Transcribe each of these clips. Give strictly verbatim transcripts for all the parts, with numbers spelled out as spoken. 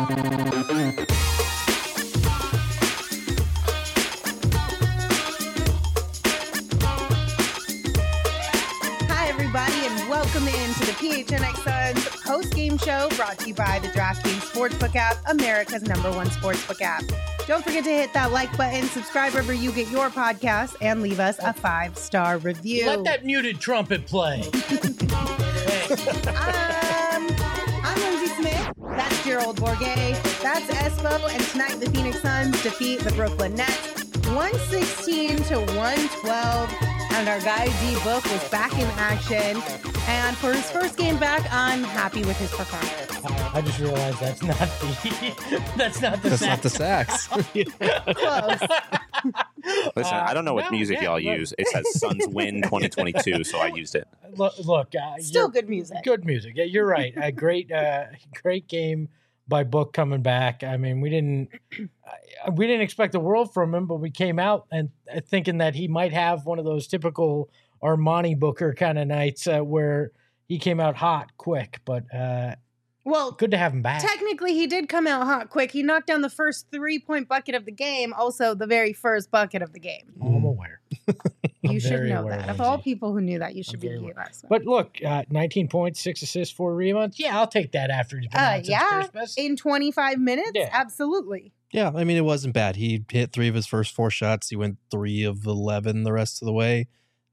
Welcome in to the P H N X Suns post-game show brought to you by the DraftKings Sportsbook app, America's number one sportsbook app. Don't forget to hit that like button, subscribe wherever you get your podcasts, and leave us a five-star review. Let that muted trumpet play. um, I'm Lindsay Smith. That's Gerald Bourguet. That's Espo. And tonight the Phoenix Suns defeat the Brooklyn Nets one sixteen to one twelve. And our guy D-Book was back in action. And for his first game back, I'm happy with his performance. I just realized that's not the that's not the that's sax. not the sax. Close. Listen, Uh, I don't know what no, music yeah, y'all look. use. It says Suns win twenty twenty-two, so I used it. Look, look uh, Still you're- good music. Good music. Yeah, you're right. A great, uh, great game by Book coming back. I mean, we didn't uh, we didn't expect the world from him, but we came out and uh, thinking that he might have one of those typical Armani Booker kind of nights uh, where he came out hot quick. But uh, Well, good to have him back. technically, he did come out hot quick. He knocked down the first three-point bucket of the game, also the very first bucket of the game. Oh, I'm aware. You I'm should very know aware, that. Of Lindsay. all people who knew that, you should I'm be very the aware. last one. But look, uh, nineteen points, six assists, four rebounds. Yeah, I'll take that after he's been Uh, out since yeah, Christmas. in twenty-five minutes? Yeah. Absolutely. Yeah, I mean, it wasn't bad. He hit three of his first four shots. He went three of eleven the rest of the way.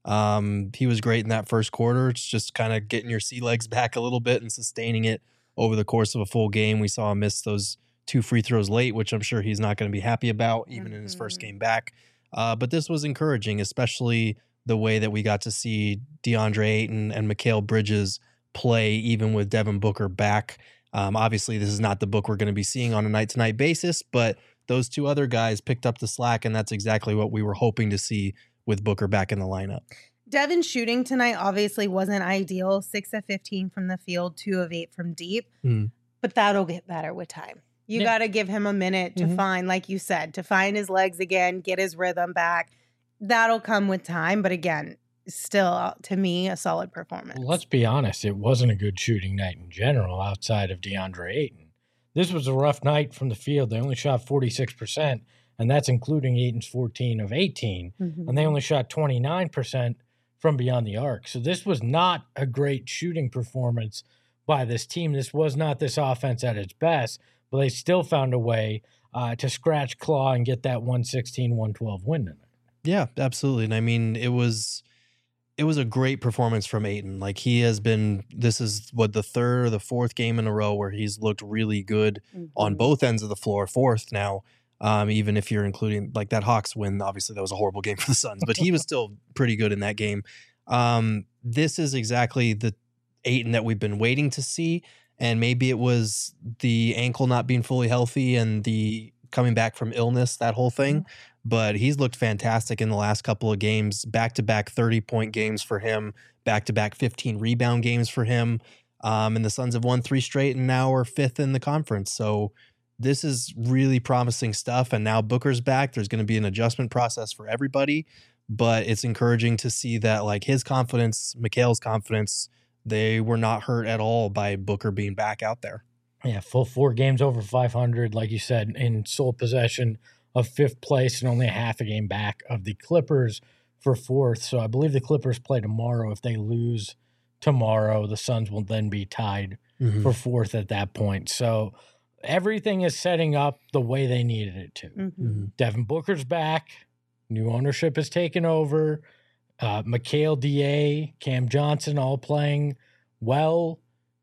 Um, he was great in that first quarter. It's just kind of getting your sea legs back a little bit and sustaining it over the course of a full game. We saw him miss those two free throws late, which I'm sure he's not going to be happy about, even in his first Mhm. game back. Uh, but this was encouraging, especially the way that we got to see DeAndre Ayton and Mikal Bridges play, even with Devin Booker back. Um, obviously, this is not the Book we're going to be seeing on a night-to-night basis, but those two other guys picked up the slack, and that's exactly what we were hoping to see with Booker back in the lineup. Devin's shooting tonight obviously wasn't ideal. six of fifteen from the field, two of eight from deep. Mm. But that'll get better with time. You Yeah. got to give him a minute to Mhm. find, like you said, to find his legs again, get his rhythm back. That'll come with time. But again, still, to me, a solid performance. Well, let's be honest, it wasn't a good shooting night in general outside of DeAndre Ayton. This was a rough night from the field. They only shot forty-six percent, and that's including Ayton's fourteen of eighteen. Mhm. And they only shot twenty-nine percent from beyond the arc. So this was not a great shooting performance by this team. This was not this offense at its best, but they still found a way uh, to scratch claw and get that one sixteen one twelve win tonight. Yeah, absolutely. And I mean, it was it was a great performance from Ayton. Like, he has been, this is what, the third or the fourth game in a row where he's looked really good on Mhm. both ends of the floor, fourth now, um, even if you're including like that Hawks win. Obviously, that was a horrible game for the Suns, but he was still pretty good in that game. Um, this is exactly the Ayton that we've been waiting to see. And maybe it was the ankle not being fully healthy and the coming back from illness, that whole thing. But he's looked fantastic in the last couple of games, back-to-back thirty-point games for him, back-to-back fifteen rebound games for him. Um, and the Suns have won three straight and now are fifth in the conference. So this is really promising stuff. And now Booker's back. There's going to be an adjustment process for everybody. But it's encouraging to see that, like, his confidence, Mikal's confidence, they were not hurt at all by Booker being back out there. Yeah, full four games over five hundred, like you said, in sole possession of fifth place and only a half a game back of the Clippers for fourth. So I believe the Clippers play tomorrow. If they lose tomorrow, the Suns will then be tied Mhm. for fourth at that point. So everything is setting up the way they needed it to. Mhm. Mhm. Devin Booker's back. New ownership has taken over. Uh, Mikal, D A, Cam Johnson all playing well.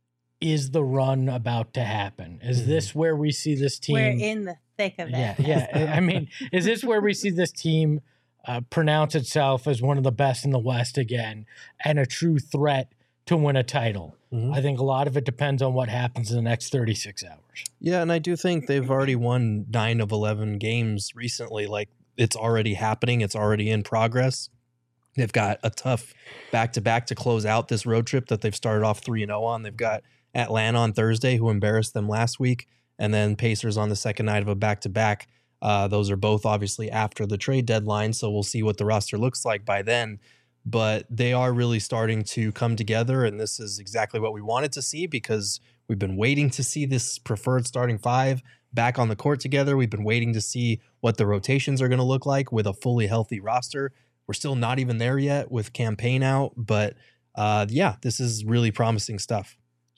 Is the run about to happen? Is Mhm. this where we see this team? We're in the thick of it. Yeah, yeah. I mean, is this where we see this team uh, pronounce itself as one of the best in the West again and a true threat to win a title? Mhm. I think a lot of it depends on what happens in the next thirty-six hours. Yeah, and I do think they've already won nine of eleven games recently. Like, it's already happening. It's already in progress. They've got a tough back-to-back to close out this road trip that they've started off three and oh on. They've got Atlanta on Thursday, who embarrassed them last week, and then Pacers on the second night of a back-to-back. Uh, those are both obviously after the trade deadline, so we'll see what the roster looks like by then. But they are really starting to come together, and this is exactly what we wanted to see because We've been waiting to see this preferred starting five back on the court together. We've been waiting to see what the rotations are going to look like with a fully healthy roster. We're still not even there yet with campaign out, but uh, yeah, this is really promising stuff.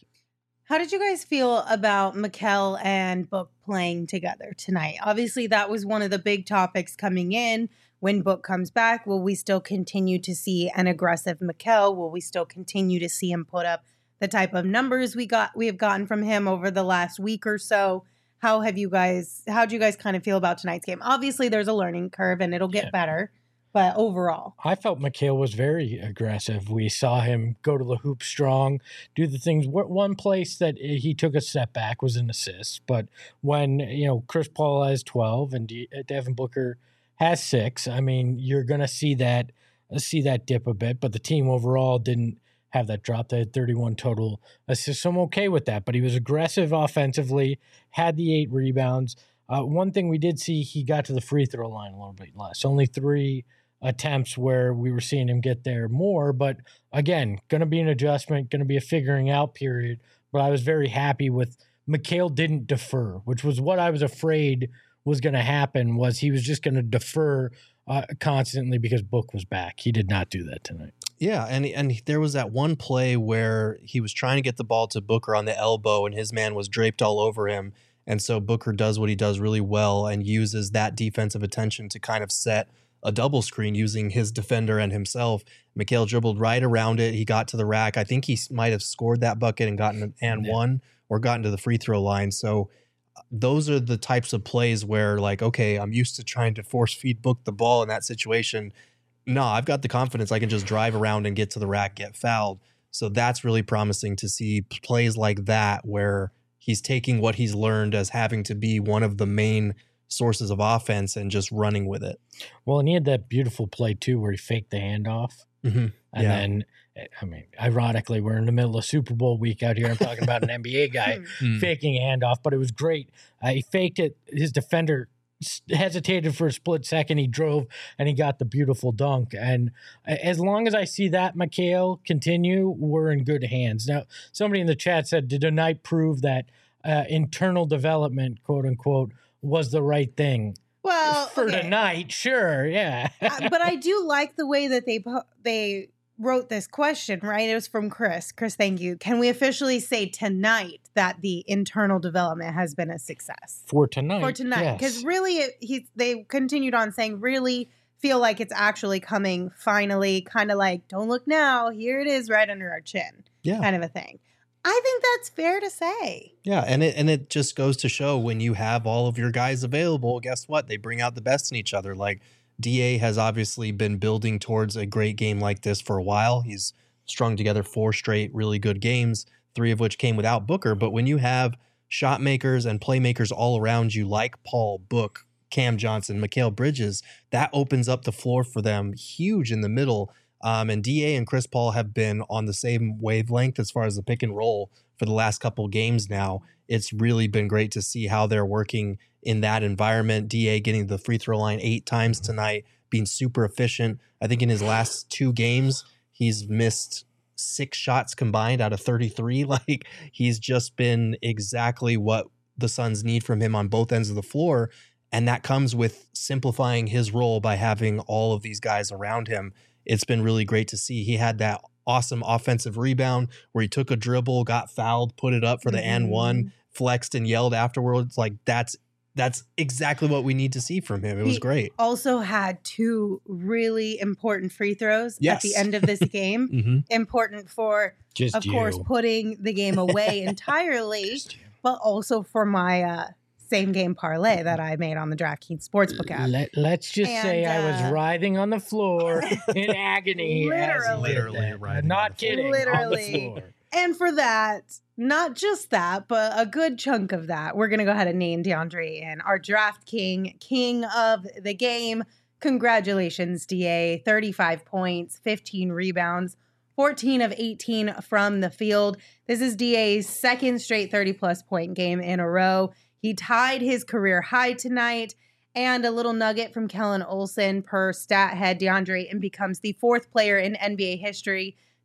How did you guys feel about Mikal and Book playing together tonight? Obviously, that was one of the big topics coming in. When Book comes back, will we still continue to see an aggressive Mikal? Will we still continue to see him put up the type of numbers we got we have gotten from him over the last week or so? How have you guys, how do you guys kind of feel about tonight's game? Obviously, there's a learning curve and it'll get Yeah. better. But overall, I felt Mikal was very aggressive. We saw him go to the hoop strong, do the things. One place that he took a step back was an assist. But when, you know, Chris Paul has twelve and Devin Booker has six, I mean, you're going to see that see that dip a bit. But the team overall didn't have that drop. They had thirty-one total assists. So I'm okay with that. But he was aggressive offensively, had the eight rebounds. Uh, one thing we did see, he got to the free throw line a little bit less. Only three attempts where we were seeing him get there more. But again, going to be an adjustment, going to be a figuring out period. But I was very happy with Mikal didn't defer, which was what I was afraid was going to happen, was he was just going to defer uh, constantly because Book was back. He did not do that tonight. Yeah, and and there was that one play where he was trying to get the ball to Booker on the elbow and his man was draped all over him. And so Booker does what he does really well and uses that defensive attention to kind of set a double screen using his defender and himself. Mikal dribbled right around it. He got to the rack. I think he might have scored that bucket and gotten an and Yeah. one or gotten to the free throw line. So those are the types of plays where, like, okay, I'm used to trying to force feed Book the ball in that situation. No, I've got the confidence I can just drive around and get to the rack, get fouled. So that's really promising to see plays like that where he's taking what he's learned as having to be one of the main sources of offense and just running with it. Well, and he had that beautiful play too where he faked the handoff. Mm-hmm. And Yeah. then, I mean, ironically, we're in the middle of Super Bowl week out here. I'm talking about an N B A guy Mm. faking a handoff, but it was great. Uh, he faked it. His defender s- hesitated for a split second. He drove and he got the beautiful dunk. And a- as long as I see that Mikal continue, we're in good hands. Now, somebody in the chat said, did tonight prove that uh, internal development, quote unquote, was the right thing? well, For okay. tonight, sure, yeah. Uh, but I do like the way that they po- they wrote this question, right? It was from Chris. Chris, thank you. Can we officially say tonight that the internal development has been a success For tonight. for tonight? Because yes. really, it, he they continued on saying, really feel like it's actually coming finally, kind of like, don't look now, here it is right under our chin, Yeah. kind of a thing. I think that's fair to say. Yeah, and it and it just goes to show when you have all of your guys available, guess what? They bring out the best in each other. Like D A has obviously been building towards a great game like this for a while. He's strung together four straight really good games, three of which came without Booker. But when you have shot makers and playmakers all around you like Paul, Book, Cam Johnson, Mikal Bridges, that opens up the floor for them huge in the middle. Um, and D A and Chris Paul have been on the same wavelength as far as the pick and roll for the last couple games now. It's really been great to see how they're working in that environment. D A getting the free throw line eight times tonight, being super efficient. I think in his last two games, he's missed six shots combined out of thirty-three. Like, he's just been exactly what the Suns need from him on both ends of the floor. And that comes with simplifying his role by having all of these guys around him. It's been really great to see. He had that awesome offensive rebound where he took a dribble, got fouled, put it up for the Mhm. and one, flexed and yelled afterwards. Like, that's that's exactly what we need to see from him. It was He great. Also had two really important free throws at Yes. the end of this game. Mm-hmm. Important for, Just of you. course, putting the game away entirely, Just you. but also for my uh, same game parlay that I made on the DraftKings Sportsbook app. Let, let's just And, say I uh, was writhing on the floor in agony. as he Literally. did Literally that. writhing I'm not on the floor. kidding. Literally. On the floor. And for that, not just that, but a good chunk of that, we're going to go ahead and name DeAndre in our Draft King, king of the game. Congratulations, D A. thirty-five points, fifteen rebounds, fourteen of eighteen from the field. This is D A's second straight thirty-plus point game in a row. He tied his career high tonight. And a little nugget from Kellen Olson per stat head DeAndre and becomes the fourth player in N B A history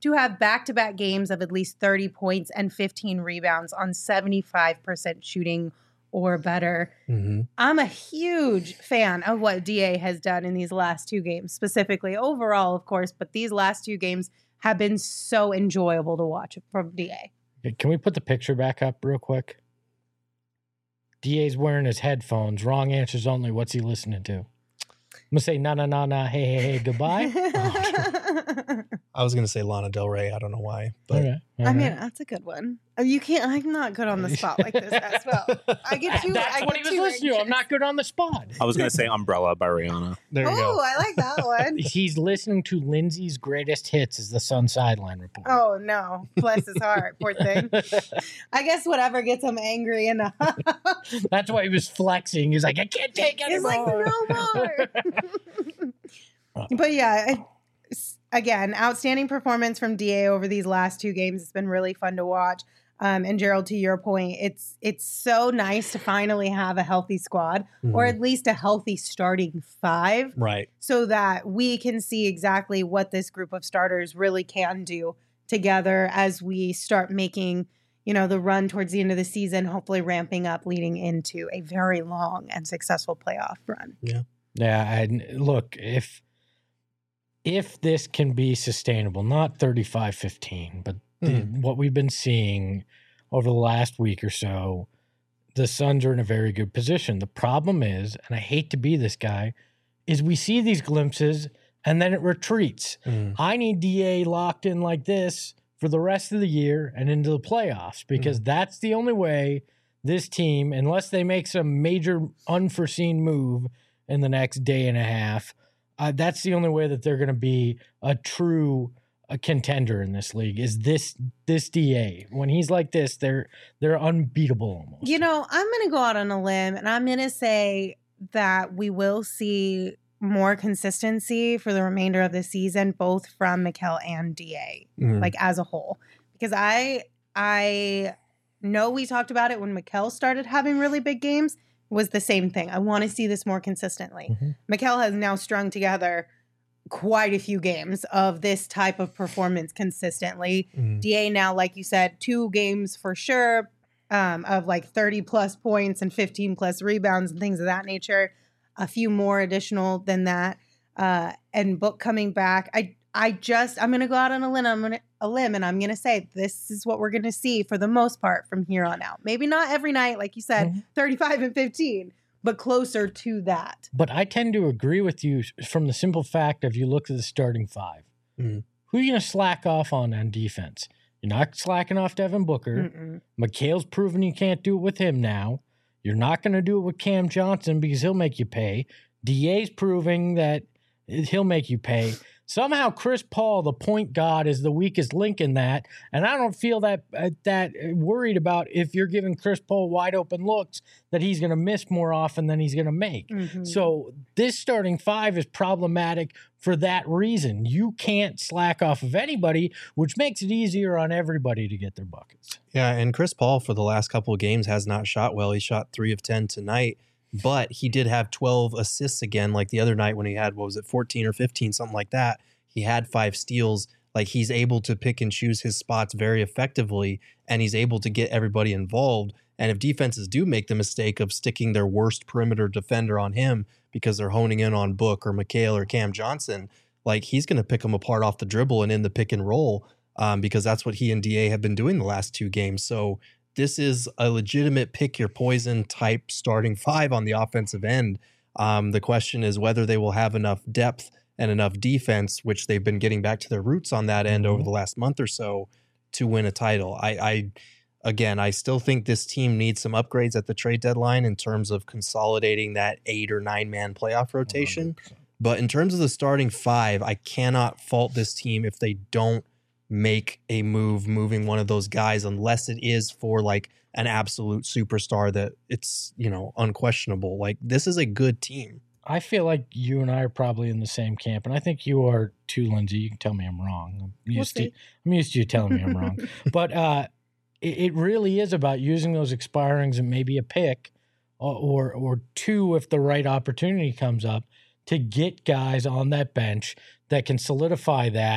to have back-to-back games of at least thirty points and fifteen rebounds on seventy-five percent shooting or better. Mm-hmm. I'm a huge fan of what D A has done in these last two games, specifically overall, of course, but these last two games have been so enjoyable to watch from D A. Can we put the picture back up real quick? D A's wearing his headphones. Wrong answers only. What's he listening to? I'm going to say, na, na, na, na, hey, hey, hey, goodbye. I was going to say Lana Del Rey. I don't know why. But Okay. All I right. mean, that's a good one. Oh, you can't, I'm not good on the spot like this as well. I get too, That's I what get he was too listening to. I'm anxious. not good on the spot. I was going to say Umbrella by Rihanna. there you Oh, go. I like that one. He's listening to Lindsay's greatest hits is the Sun Sideline Report. Oh, no. Bless his heart. Poor thing. I guess whatever gets him angry enough. That's why he was flexing. He's like, I can't take It's anymore. like, no more. But yeah, it- again, outstanding performance from D A over these last two games. It's been really fun to watch. Um, and Gerald, to your point, it's it's so nice to finally have a healthy squad, or Mhm. at least a healthy starting five, Right. so that we can see exactly what this group of starters really can do together as we start making, you know, the run towards the end of the season, hopefully ramping up, leading into a very long and successful playoff run. Yeah, and look, if if this can be sustainable, not thirty-five fifteen, but the, what we've been seeing over the last week or so, the Suns are in a very good position. The problem is, and I hate to be this guy, is we see these glimpses and then it retreats. Mm. I need D A locked in like this for the rest of the year and into the playoffs, because that's the only way this team, unless they make some major unforeseen move in the next day and a half, uh, that's the only way that they're going to be a true a contender in this league. Is this this D A when he's like this, they're they're unbeatable almost. You know, I'm going to go out on a limb and I'm going to say that we will see more consistency for the remainder of the season, both from Mikal and D A, Mm. like as a whole. Because I I know we talked about it when Mikal started having really big games, was the same thing. I want to see this more consistently. Mhm. Mikal has now strung together quite a few games of this type of performance consistently. Mm. D A now, like you said, two games for sure um, of like thirty plus points and fifteen plus rebounds and things of that nature. A few more additional than that. Uh, and Book coming back. I I just, I'm going to go out on a limb, I'm gonna, a limb and I'm going to say this is what we're going to see for the most part from here on out. Maybe not every night, like you said, Mhm. thirty-five and fifteen, but closer to that. But I tend to agree with you from the simple fact of you look at the starting five. Mm. Who are you going to slack off on on defense? You're not slacking off Devin Booker. Mm-mm. McHale's proven you can't do it with him now. You're not going to do it with Cam Johnson because he'll make you pay. D A's proving that he'll make you pay. Somehow Chris Paul, the point guard, is the weakest link in that, and I don't feel that uh, that worried about if you're giving Chris Paul wide open looks that he's going to miss more often than he's going to make. Mhm. So this starting five is problematic for that reason. You can't slack off of anybody, which makes it easier on everybody to get their buckets. Yeah, and Chris Paul for the last couple of games has not shot well. He shot three of ten tonight, but he did have twelve assists again, like the other night when he had, what was it, fourteen or fifteen, something like that. He had five steals. Like, he's able to pick and choose his spots very effectively, and he's able to get everybody involved. And if defenses do make the mistake of sticking their worst perimeter defender on him because they're honing in on Book or Mikal or Cam Johnson, like, he's going to pick them apart off the dribble and in the pick and roll, um, because that's what he and D A have been doing the last two games. So this is a legitimate pick your poison type starting five on the offensive end. Um, the question is whether they will have enough depth and enough defense, which they've been getting back to their roots on that end over the last month or so, to win a title. I, I again, I still think this team needs some upgrades at the trade deadline in terms of consolidating that eight or nine man playoff rotation. one hundred percent. But in terms of the starting five, I cannot fault this team if they don't make a move, moving one of those guys, unless it is for like an absolute superstar that it's, you know, unquestionable. Like, this is a good team. I feel like you and I are probably in the same camp, and I think you are too, Lindsay. You can tell me I'm wrong. I'm We'll used to see. I'm used to you telling me I'm wrong. But uh, it, it really is about using those expirings and maybe a pick or, or or two if the right opportunity comes up to get guys on that bench that can solidify that.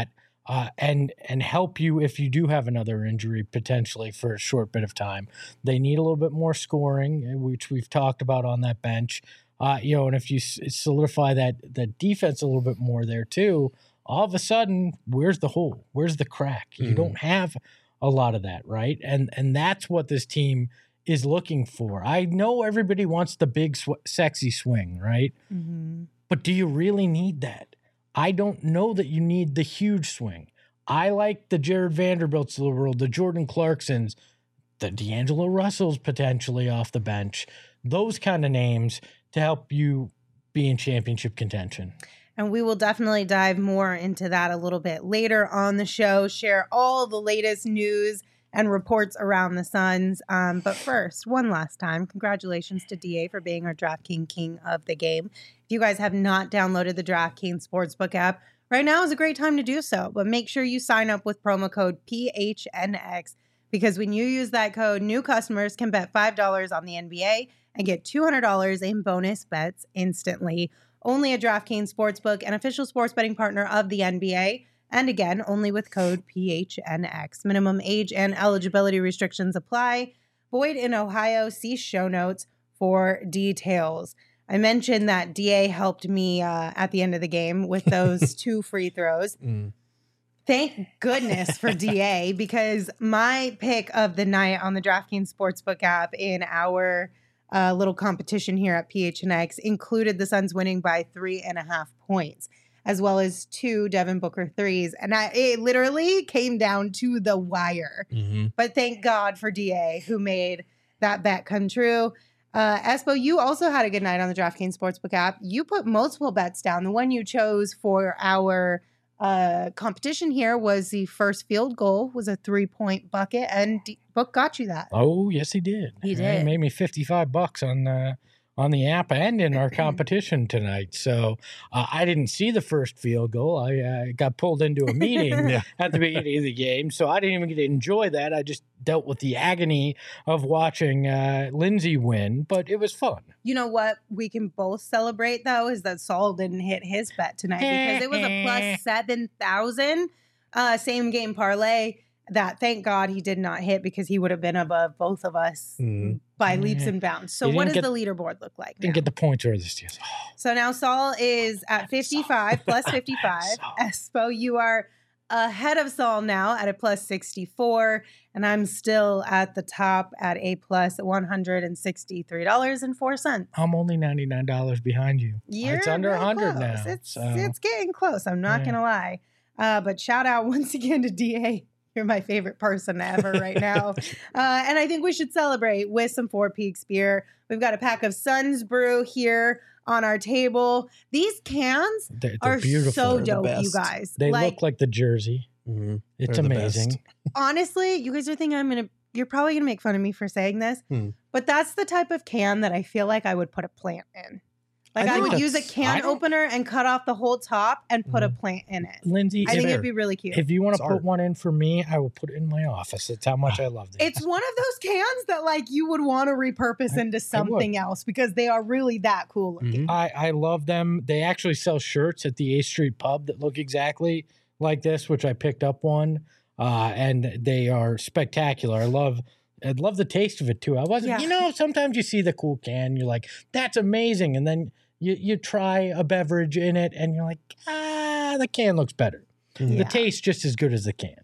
uh, and and help you if you do have another injury potentially for a short bit of time. They need a little bit more scoring, which we've talked about on that bench. Uh, you know, and if you solidify that the defense a little bit more there too, all of a sudden, where's the hole? Where's the crack? You mm-hmm. don't have a lot of that, right? And and that's what this team is looking for. I know everybody wants the big, sw- sexy swing, right? Mm-hmm. But do you really need that? I don't know that you need the huge swing. I like the Jared Vanderbilts of the world, the Jordan Clarksons, the D'Angelo Russells potentially off the bench, those kind of names to help you be in championship contention. And we will definitely dive more into that a little bit later on the show, share all the latest news and reports around the Suns. Um, but first, one last time, congratulations to D A for being our DraftKings King of the game. If you guys have not downloaded the DraftKings Sportsbook app, right now is a great time to do so. But make sure you sign up with promo code P H N X, because when you use that code, new customers can bet five dollars on the N B A and get two hundred dollars in bonus bets instantly. Only at DraftKings Sportsbook, an official sports betting partner of the N B A. And again, only with code P H N X. Minimum age and eligibility restrictions apply. Void in Ohio. See show notes for details. I mentioned that D A helped me uh, at the end of the game with those two free throws. Mm. Thank goodness for D A, because my pick of the night on the DraftKings Sportsbook app in our uh, little competition here at P H N X included the Suns winning by three and a half points, as well as two Devin Booker threes. And I, it literally came down to the wire. Mm-hmm. But thank God for D A, who made that bet come true. Uh, Espo, you also had a good night on the DraftKings Sportsbook app. You put multiple bets down. The one you chose for our uh, competition here was the first field goal, was a three-point bucket, and D- Book got you that. Oh, yes, he did. He did. He made me fifty-five bucks on the on the app and in our competition tonight. So uh, I didn't see the first field goal. I uh, got pulled into a meeting yeah. at the beginning of the game, so I didn't even get to enjoy that. I just dealt with the agony of watching uh, Lindsay win, but it was fun. You know what we can both celebrate, though, is that Saul didn't hit his bet tonight, because it was a plus seven thousand uh, same game parlay that, thank God, he did not hit, because he would have been above both of us mm. by yeah. leaps and bounds. So what does get, the leaderboard look like now? Didn't get the points or this. Oh. So now Saul is at fifty-five, plus fifty-five. Espo, you are ahead of Saul now at a plus sixty-four, and I'm still at the top at a plus one hundred sixty-three dollars and four cents. I'm only ninety-nine dollars behind you. You're it's under really one hundred close. now. It's, so. it's getting close. I'm not yeah. going to lie. Uh, but shout out once again to D A. You're my favorite person ever right now. uh, and I think we should celebrate with some Four Peaks beer. We've got a pack of Suns Brew here on our table. These cans they're, they're are beautiful. so they're dope, you guys. They like, look like the jersey. Mm-hmm. It's they're amazing. Honestly, you guys are thinking I'm going to, you're probably going to make fun of me for saying this, hmm. but that's the type of can that I feel like I would put a plant in. Like I, I would use a can opener and cut off the whole top and put mm-hmm. a plant in it. Lindsay, I think it'd be really cute. If you want to put one in for me, I will put it in my office. That's how much I love it. It's one of those cans that like you would want to repurpose I, into something else, because they are really that cool looking. Mm-hmm. I, I love them. They actually sell shirts at the eighth Street Pub that look exactly like this, which I picked up one, uh, and they are spectacular. I love I love the taste of it too. I wasn't, yeah. you know, sometimes you see the cool can, you're like, that's amazing, and then You you try a beverage in it and you're like, ah, the can looks better. Yeah. The taste just as good as the can.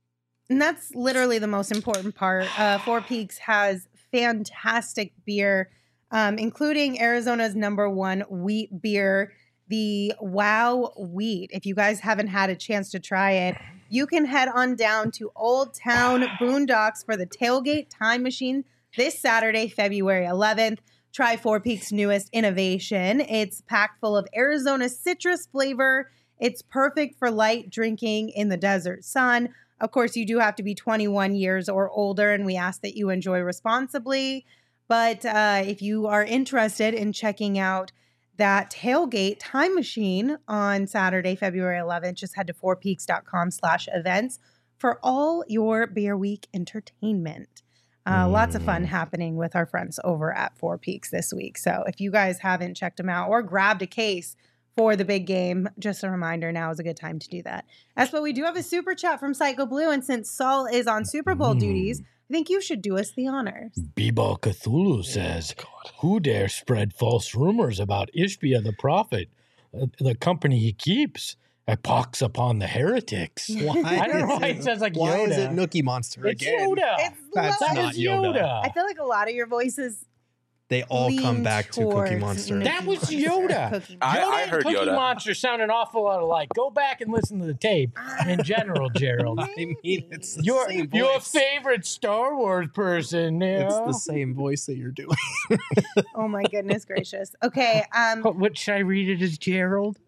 And that's literally the most important part. Uh, Four Peaks has fantastic beer, um, including Arizona's number one wheat beer, the Wow Wheat. If you guys haven't had a chance to try it, you can head on down to Old Town Boondocks for the Tailgate Time Machine this Saturday, February eleventh. Try Four Peaks' newest innovation. It's packed full of Arizona citrus flavor. It's perfect for light drinking in the desert sun. Of course, you do have to be twenty-one years or older, and we ask that you enjoy responsibly. But uh, if you are interested in checking out that Tailgate Time Machine on Saturday, February eleventh, just head to fourpeaks.com slash events for all your Beer Week entertainment. Uh, mm. Lots of fun happening with our friends over at Four Peaks this week. So if you guys haven't checked them out or grabbed a case for the big game. Just a reminder, now is a good time to do that. As but we do have a super chat from Psycho Blue, and since Saul is on Super Bowl Mm. duties, I think you should do us the honors. Bebal Cthulhu says, who dare spread false rumors about Ishbia the prophet, uh, the company he keeps? A pox upon the heretics. Why I don't know is why it- it sounds like Why is it Yoda. Nookie Monster It's again? Yoda. It's That's love- That not is Yoda. Yoda. I feel like a lot of your voices They all come lean back to Cookie towards Monster. Nookie That was Monster. Yoda. Cookie I- Yoda I and heard Cookie Yoda. Monster sound an awful lot alike. Go back and listen to the tape in general, Gerald. I mean, it's the Your, same your voice. favorite Star Wars person. You It's know? the same voice that you're doing. Oh my goodness gracious. Okay. Um. What, what should I read it as, Gerald?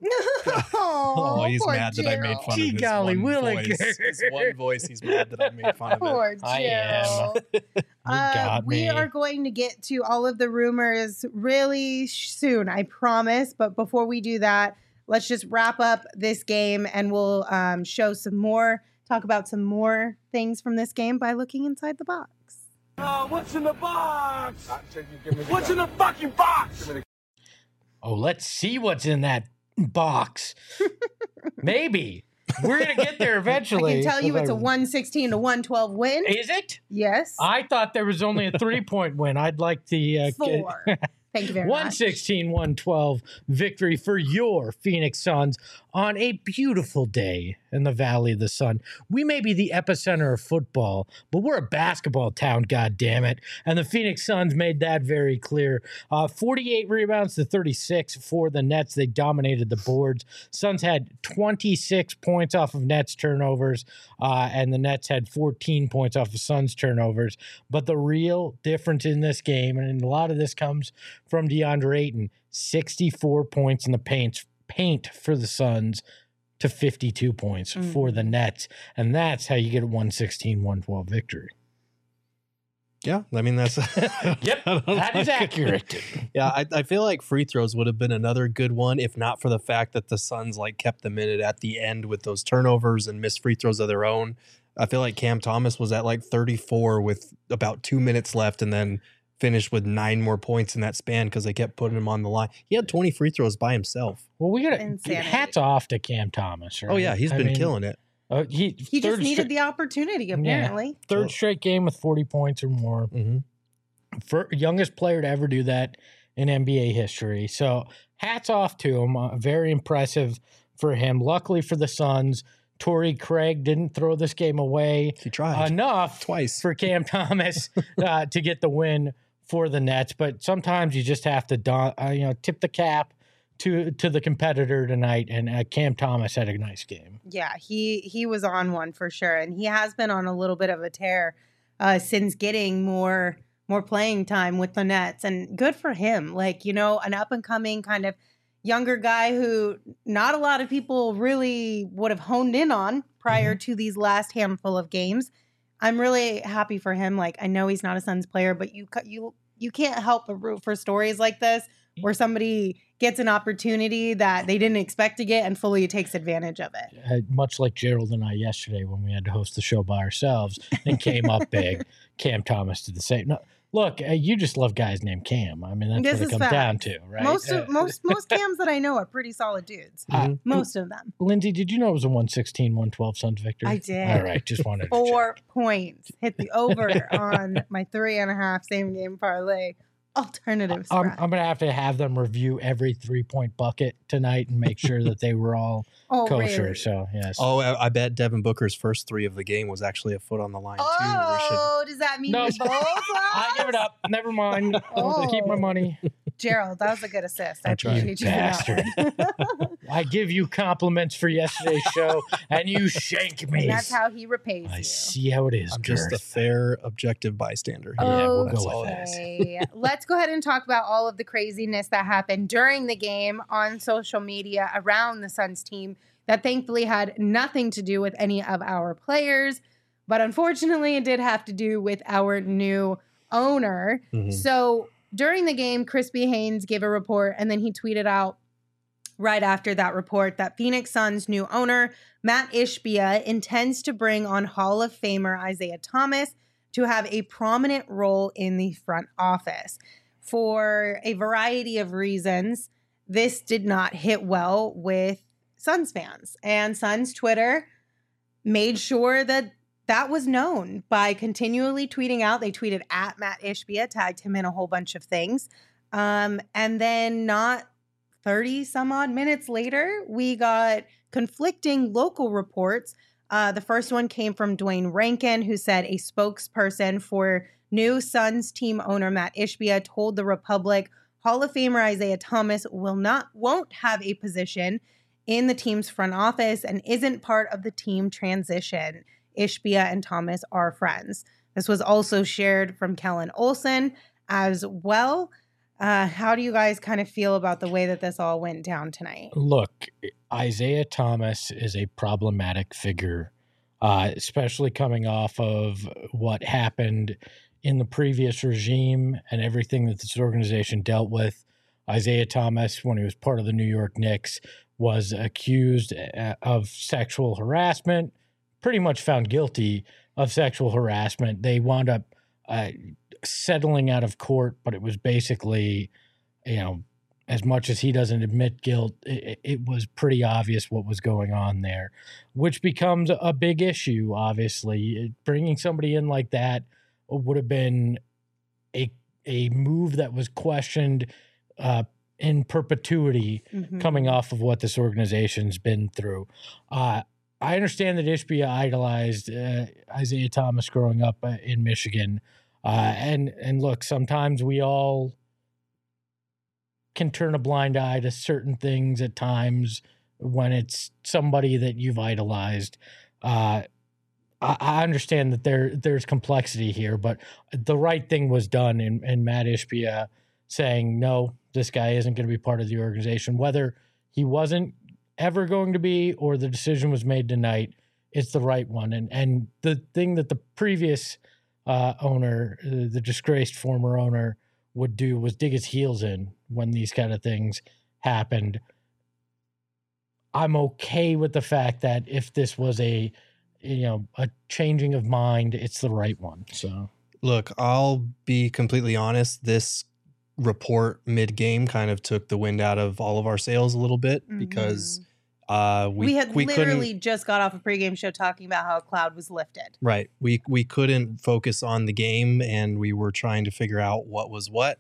Oh, he's poor mad that I made Gerald. fun Gee of his golly one willikers. voice. His one voice, he's mad that I made fun of it. Poor I am. Gerald. You Uh, got we me. are going to get to all of the rumors really sh- soon, I promise. But before we do that, let's just wrap up this game and we'll um, show some more, talk about some more things from this game by looking inside the box. Uh, what's in the box? What's in the fucking box? Oh, let's see what's in that box. Maybe. We're going to get there I eventually. can tell you If it's I- a one sixteen to one twelve win. Is it? Yes. I thought there was only a three-point win. I'd like the uh, Four. Thank you very one much. sixteen one twelve victory for your Phoenix Suns on a beautiful day in the Valley of the Sun. We may be the epicenter of football, but we're a basketball town, God damn it! And the Phoenix Suns made that very clear. Uh, forty-eight rebounds to thirty-six for the Nets. They dominated the boards. Suns had twenty-six points off of Nets turnovers, uh, and the Nets had fourteen points off of Suns turnovers. But the real difference in this game, and a lot of this comes from DeAndre Ayton, sixty-four points in the paint, paint for the Suns to fifty-two points Mm. for the Nets. And that's how you get a one sixteen one twelve victory. Yeah, I mean, that's. Yep, I don't that is like- accurate. Yeah, I, I feel like free throws would have been another good one if not for the fact that the Suns like kept them in it at the end with those turnovers and missed free throws of their own. I feel like Cam Thomas was at like thirty-four with about two minutes left and then finished with nine more points in that span because they kept putting him on the line. He had twenty free throws by himself. Well, we got to Insanity. hats off to Cam Thomas. Right? Oh, yeah, he's I been mean, killing it. Uh, he He just third needed stra- the opportunity, apparently. third straight game with forty points or more. hmm For youngest player to ever do that in N B A history. So hats off to him. Uh, very impressive for him. Luckily for the Suns, Torrey Craig didn't throw this game away He tried enough twice. for Cam Thomas uh, to get the win for the Nets. But sometimes you just have to don- uh, you know tip the cap to to the competitor tonight. And uh, Cam Thomas had a nice game. Yeah, he he was on one for sure, and he has been on a little bit of a tear uh, since getting more more playing time with the Nets, and good for him. Like, you know, an up and coming kind of younger guy who not a lot of people really would have honed in on prior to these last handful of games. I'm really happy for him. Like, I know he's not a Suns player, but you ca- you you can't help but root for stories like this where somebody gets an opportunity that they didn't expect to get and fully takes advantage of it. Uh, much like Gerald and I yesterday when we had to host the show by ourselves and came up big. Cam Thomas did the same. No, look, uh, you just love guys named Cam. I mean, that's This what it is comes facts. down to, right? Most Uh, of most most cams that I know are pretty solid dudes. uh, Mhm. Most of them. Lindsay, did you know it was a one sixteen one twelve Suns victory? I did. All right, just wanted to Four check. points. Hit the over on my three and a half same game parlay. Alternative I'm, spread. I'm going to have to have them review every three point bucket tonight and make sure that they were all oh, kosher. really? So, yes. Oh, I, I bet Devin Booker's first three of the game was actually a foot on the line too. We should Oh, does that mean No. we both I give it lost? up. Never mind. I'll keep my Oh. money. Gerald, that was a good assist. I That's right. appreciate you for that one. I give you compliments for yesterday's show, and you shank me. And that's how he repays I you. see how it is. I'm just a Girth. fair, objective bystander. Yeah, we'll That's go all with it is. Okay. Let's go ahead and talk about all of the craziness that happened during the game on social media around the Suns team that thankfully had nothing to do with any of our players. But unfortunately, it did have to do with our new owner. Mhm. So during the game, Crispy Haynes gave a report and then he tweeted out right after that report that Phoenix Suns' new owner, Matt Ishbia, intends to bring on Hall of Famer Isaiah Thomas to have a prominent role in the front office. For a variety of reasons, this did not hit well with Suns fans. And Suns Twitter made sure that that was known by continually tweeting out. They tweeted at Matt Ishbia, tagged him in a whole bunch of things. Um, and then not thirty some odd minutes later, we got conflicting local reports. Uh, the first one came from Dwayne Rankin, who said a spokesperson for new Suns team owner Matt Ishbia told the Republic Hall of Famer Isaiah Thomas will not won't have a position in the team's front office and isn't part of the team transition. Ishbia and Thomas are friends. This was also shared from Kellen Olson as well. Uh, how do you guys kind of feel about the way that this all went down tonight? Look, Isaiah Thomas is a problematic figure, uh, especially coming off of what happened in the previous regime and everything that this organization dealt with. Isaiah Thomas, when he was part of the New York Knicks, was accused of sexual harassment, pretty much found guilty of sexual harassment. They wound up uh, settling out of court, but it was basically, you know, as much as he doesn't admit guilt, it, it was pretty obvious what was going on there, which becomes a big issue, obviously. Bringing somebody in like that would have been a a move that was questioned uh, in perpetuity, mm-hmm. coming off of what this organization's been through. Uh, I understand that Ishbia idolized uh, Isaiah Thomas growing up uh, in Michigan. Uh, and, and look, sometimes we all can turn a blind eye to certain things at times when it's somebody that you've idolized. Uh, I, I understand that there there's complexity here, but the right thing was done in, in Matt Ishbia saying, no, this guy isn't going to be part of the organization. Whether he wasn't ever going to be or the decision was made tonight, it's the right one. And and the thing that the previous uh, owner, uh, the disgraced former owner, would do was dig his heels in when these kind of things happened. I'm okay with the fact that if this was a, you know, a changing of mind, it's the right one. So look, I'll be completely honest. This report mid-game kind of took the wind out of all of our sails a little bit, mm-hmm. because uh, we we had we literally just got off a pregame show talking about how a cloud was lifted. Right. We we couldn't focus on the game, and we were trying to figure out what was what.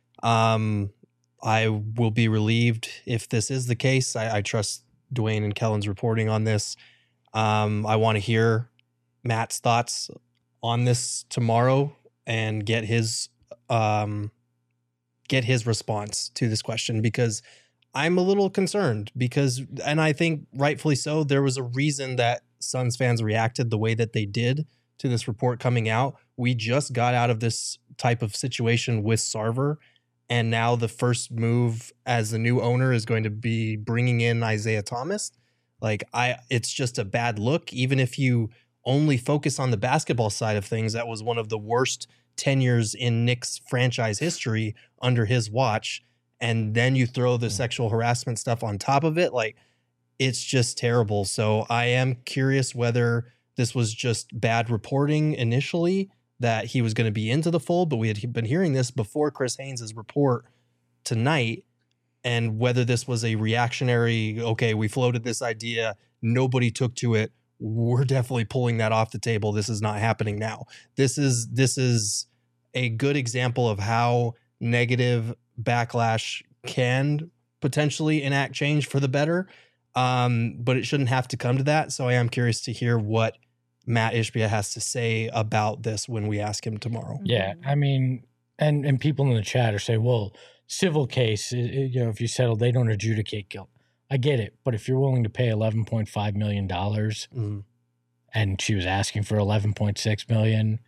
Um, I will be relieved if this is the case. I, I trust Dwayne and Kellen's reporting on this. Um, I want to hear Matt's thoughts on this tomorrow and get his um, get his response to this question, because I'm a little concerned because, and I think rightfully so, there was a reason that Suns fans reacted the way that they did to this report coming out. We just got out of this type of situation with Sarver, and now the first move as the new owner is going to be bringing in Isaiah Thomas. Like, I, it's just a bad look. Even if you only focus on the basketball side of things, that was one of the worst tenures in Knicks franchise history under his watch. And then you throw the sexual harassment stuff on top of it. Like, it's just terrible. So I am curious whether this was just bad reporting initially, that he was going to be into the fold, but we had been hearing this before Chris Haynes' report tonight, and whether this was a reactionary, okay, we floated this idea, nobody took to it, we're definitely pulling that off the table, this is not happening now. This is this is a good example of how negative backlash can potentially enact change for the better, um, but it shouldn't have to come to that. So I am curious to hear what Matt Ishbia has to say about this when we ask him tomorrow. Yeah, I mean, and and people in the chat are saying, well, civil case, you know, if you settle, they don't adjudicate guilt. I get it, but if you're willing to pay eleven point five million dollars, mm. and she was asking for eleven point six million dollars,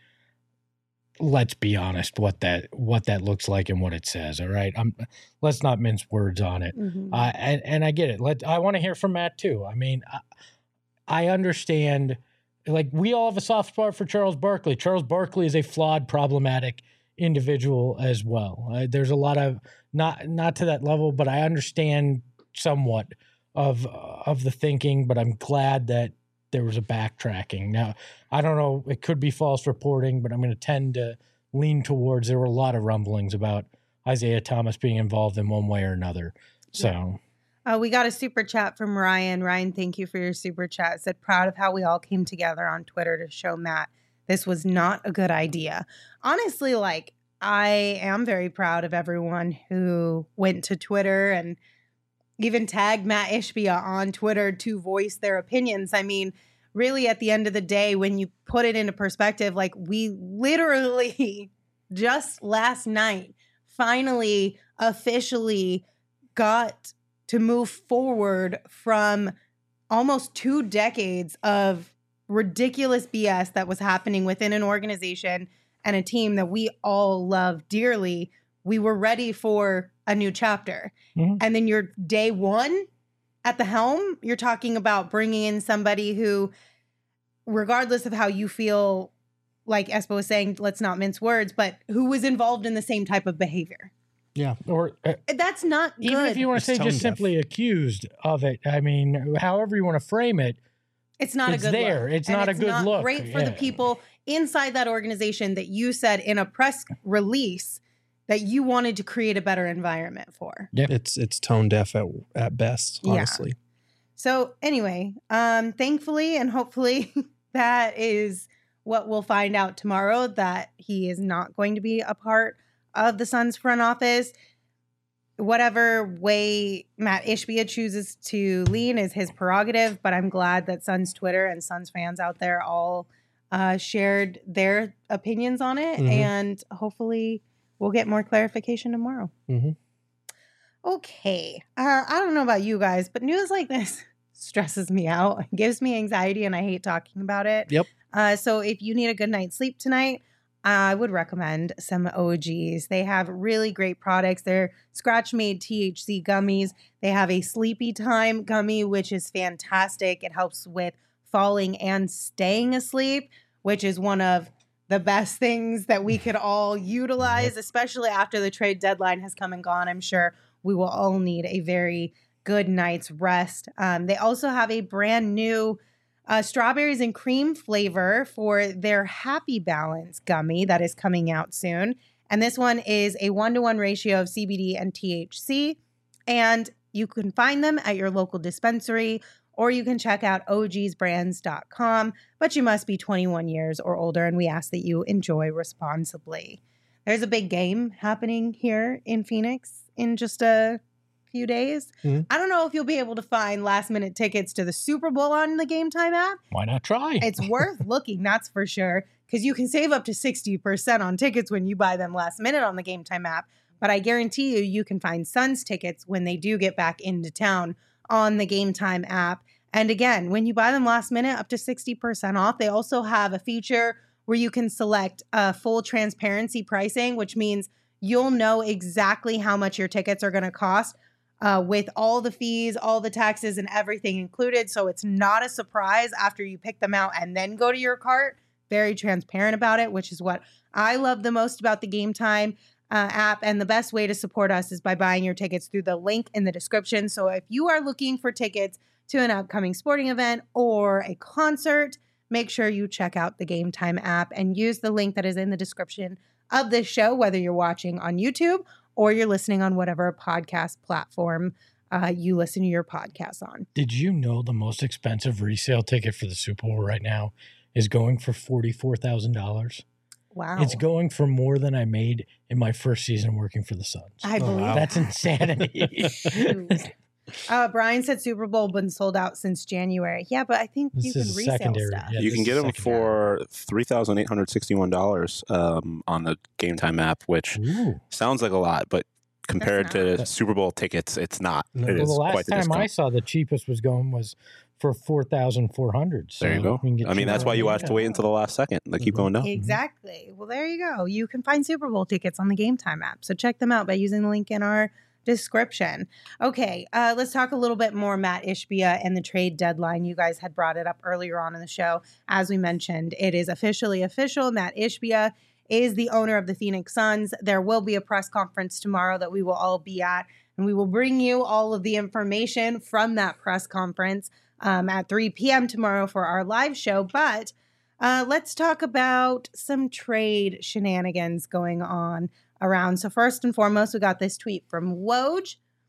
let's be honest what that what that looks like and what it says. All right, I'm, let's not mince words on it. Mm-hmm. Uh, and and I get it. Let I want to hear from Matt too. I mean, I, I understand. Like, we all have a soft spot for Charles Barkley. Charles Barkley is a flawed, problematic individual as well. Uh, there's a lot of not not to that level, but I understand somewhat of of the thinking. But I'm glad that there was a backtracking. Now, I don't know, it could be false reporting, but I'm going to tend to lean towards there were a lot of rumblings about Isaiah Thomas being involved in one way or another. So uh, we got a super chat from Ryan. Ryan, thank you for your super chat. It said, proud of how we all came together on Twitter to show Matt this was not a good idea. Honestly, like, I am very proud of everyone who went to Twitter and even tagged Matt Ishbia on Twitter to voice their opinions. I mean, really, at the end of the day, when you put it into perspective, like, we literally just last night finally officially got to move forward from almost two decades of ridiculous B S that was happening within an organization and a team that we all love dearly. We were ready for a new chapter. Mm-hmm. And then you're day one at the helm, you're talking about bringing in somebody who, regardless of how you feel, like Espo was saying, let's not mince words, but who was involved in the same type of behavior. Yeah. Or uh, that's not good. Even if you want to say just deaf. simply accused of it, I mean, however you want to frame it, it's not it's a good there. look. It's and not it's a good not look. Great for yeah. the people inside that organization that you said in a press release that you wanted to create a better environment for. Yeah. It's it's tone deaf at, at best, honestly. Yeah. So anyway, um, thankfully and hopefully that is what we'll find out tomorrow, that he is not going to be a part of the Suns front office. Whatever way Matt Ishbia chooses to lean is his prerogative, but I'm glad that Suns Twitter and Suns fans out there all uh, shared their opinions on it, mm-hmm. and hopefully we'll get more clarification tomorrow. Mm-hmm. Okay. Uh, I don't know about you guys, but news like this stresses me out. It gives me anxiety, and I hate talking about it. Yep. Uh, so if you need a good night's sleep tonight, I would recommend some O Gs. They have really great products. They're scratch-made T H C gummies. They have a sleepy time gummy, which is fantastic. It helps with falling and staying asleep, which is one of the best things that we could all utilize, especially after the trade deadline has come and gone. I'm sure we will all need a very good night's rest. Um, they also have a brand new Uh, strawberries and cream flavor for their Happy Balance gummy that is coming out soon. And this one is a one-to-one ratio of C B D and T H C. And you can find them at your local dispensary, or you can check out O Gs brands dot com. But you must be twenty-one years or older, and we ask that you enjoy responsibly. There's a big game happening here in Phoenix in just a few days. Mm-hmm. I don't know if you'll be able to find last minute tickets to the Super Bowl on the Game Time app. Why not try? It's worth looking, that's for sure, because you can save up to sixty percent on tickets when you buy them last minute on the Game Time app. But I guarantee you, you can find Suns tickets when they do get back into town on the Game Time app. And again, when you buy them last minute, up to sixty percent off. They also have a feature where you can select uh, full transparency pricing, which means you'll know exactly how much your tickets are going to cost. Uh, with all the fees, all the taxes, and everything included. So it's not a surprise after you pick them out and then go to your cart. Very transparent about it, which is what I love the most about the Game Time uh, app. And the best way to support us is by buying your tickets through the link in the description. So if you are looking for tickets to an upcoming sporting event or a concert, make sure you check out the Game Time app and use the link that is in the description of this show, whether you're watching on YouTube or you're listening on whatever podcast platform uh, you listen to your podcast on. Did you know the most expensive resale ticket for the Super Bowl right now is going for forty-four thousand dollars? Wow. It's going for more than I made in my first season working for the Suns. I believe oh, wow. That's insanity. uh, Brian said Super Bowl been sold out since January. Yeah, but I think this you can resale secondary. stuff. Yeah, you can get them for three thousand eight hundred sixty-one dollars um, on the Game Time app, which Ooh. sounds like a lot, but compared to Super Bowl tickets, it's not. No. It well, is the last quite the time discount. I saw the cheapest was going was for four thousand four hundred dollars. So there you go. I mean, that's why you have to wait until the last second. They keep mm-hmm. going down. Exactly. Well, there you go. You can find Super Bowl tickets on the Game Time app. So check them out by using the link in our description. Okay, uh, let's talk a little bit more Matt Ishbia and the trade deadline. You guys had brought it up earlier on in the show. As we mentioned, it is officially official. Matt Ishbia is the owner of the Phoenix Suns. There will be a press conference tomorrow that we will all be at, and we will bring you all of the information from that press conference um, at three p.m. tomorrow for our live show. But uh, let's talk about some trade shenanigans going on around. So first and foremost, we got this tweet from Woj.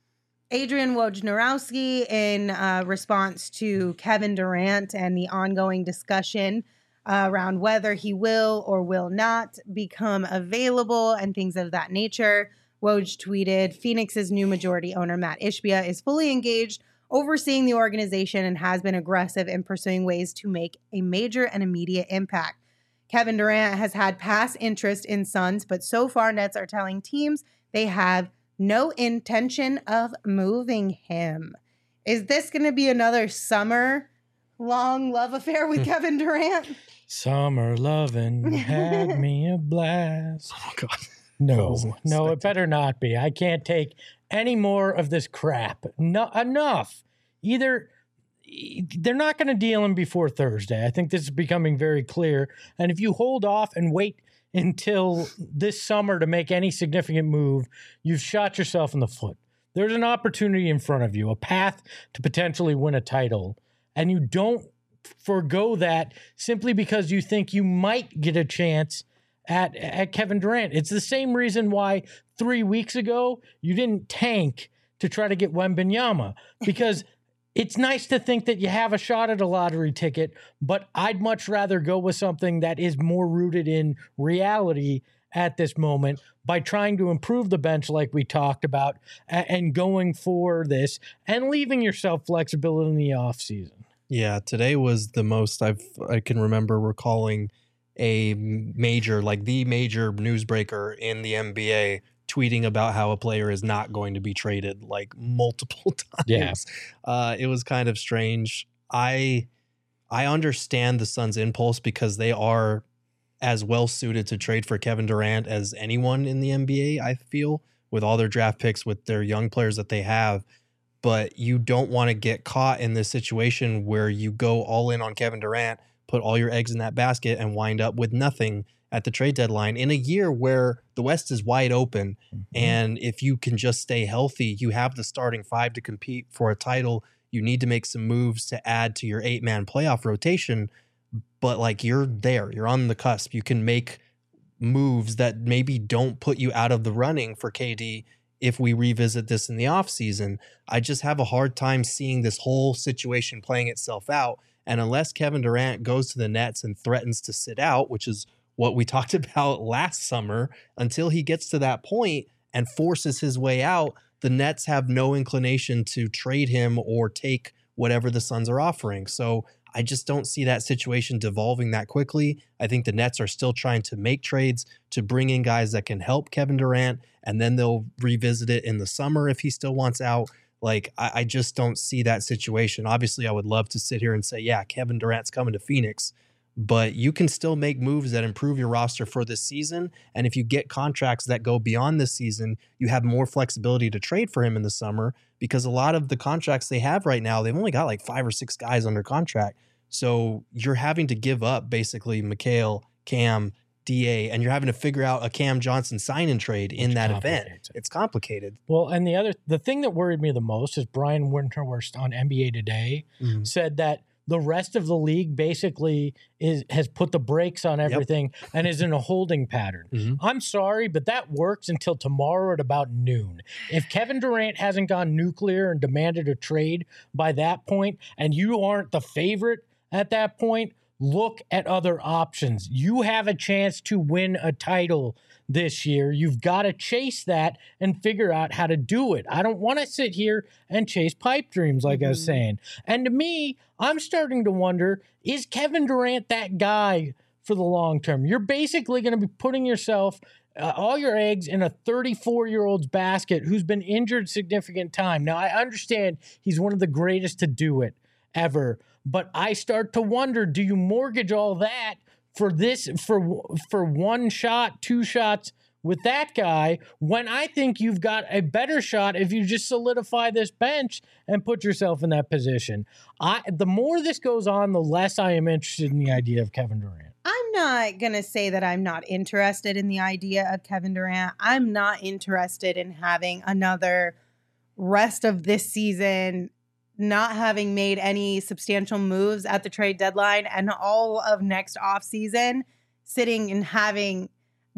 Adrian Wojnarowski, in uh, response to Kevin Durant and the ongoing discussion uh, around whether he will or will not become available and things of that nature, Woj tweeted, Phoenix's new majority owner, Matt Ishbia, is fully engaged, overseeing the organization, and has been aggressive in pursuing ways to make a major and immediate impact. Kevin Durant has had past interest in Suns, but so far Nets are telling teams they have no intention of moving him. Is this going to be another summer long love affair with Kevin Durant? Summer lovin' had me a blast. Oh, God. No, no, it better not be. I can't take any more of this crap. No, enough. Either they're not going to deal him before Thursday. I think this is becoming very clear. And if you hold off and wait until this summer to make any significant move, you've shot yourself in the foot. There's an opportunity in front of you, a path to potentially win a title, and you don't forego that simply because you think you might get a chance at, at Kevin Durant. It's the same reason why three weeks ago you didn't tank to try to get Wembanyama, because it's nice to think that you have a shot at a lottery ticket, but I'd much rather go with something that is more rooted in reality at this moment by trying to improve the bench like we talked about and going for this and leaving yourself flexibility in the offseason. Yeah, today was the most I've I can remember recalling a major, like the major newsbreaker in the N B A tweeting about how a player is not going to be traded like multiple times. Yeah. Uh, it was kind of strange. I I understand the Suns' impulse because they are as well suited to trade for Kevin Durant as anyone in the N B A, I feel, with all their draft picks, with their young players that they have. But you don't want to get caught in this situation where you go all in on Kevin Durant, put all your eggs in that basket, and wind up with nothing at the trade deadline in a year where the West is wide open. Mm-hmm. And if you can just stay healthy, you have the starting five to compete for a title. You need to make some moves to add to your eight-man playoff rotation. But like, you're there, you're on the cusp. You can make moves that maybe don't put you out of the running for K D if we revisit this in the offseason. I just have a hard time seeing this whole situation playing itself out. And unless Kevin Durant goes to the Nets and threatens to sit out, which is what we talked about last summer, until he gets to that point and forces his way out, the Nets have no inclination to trade him or take whatever the Suns are offering. So I just don't see that situation devolving that quickly. I think the Nets are still trying to make trades to bring in guys that can help Kevin Durant, and then they'll revisit it in the summer if he still wants out. Like, I, I just don't see that situation. Obviously, I would love to sit here and say, yeah, Kevin Durant's coming to Phoenix, but you can still make moves that improve your roster for this season. And if you get contracts that go beyond this season, you have more flexibility to trade for him in the summer, because a lot of the contracts they have right now, they've only got like five or six guys under contract. So you're having to give up basically Mikal, Cam, D A, and you're having to figure out a Cam Johnson sign and trade in that event. It's complicated. Well, and the other, the thing that worried me the most is Brian Windhorst on N B A Today mm-hmm. said that the rest of the league basically is has put the brakes on everything yep. and is in a holding pattern. Mm-hmm. I'm sorry, but that works until tomorrow at about noon. If Kevin Durant hasn't gone nuclear and demanded a trade by that point, and you aren't the favorite at that point, look at other options. You have a chance to win a title this year. You've got to chase that and figure out how to do it. I don't want to sit here and chase pipe dreams like mm-hmm. I was saying. And to me, I'm starting to wonder, is Kevin Durant that guy for the long term? You're basically going to be putting yourself, uh, all your eggs in a thirty-four-year-old's basket who's been injured significant time. Now, I understand he's one of the greatest to do it ever, but I start to wonder, do you mortgage all that for this, for for one shot, two shots with that guy, when I think you've got a better shot if you just solidify this bench and put yourself in that position? I the more this goes on, the less I am interested in the idea of Kevin Durant. I'm not going to say that I'm not interested in the idea of Kevin Durant. I'm not interested in having another rest of this season not having made any substantial moves at the trade deadline, and all of next offseason sitting and having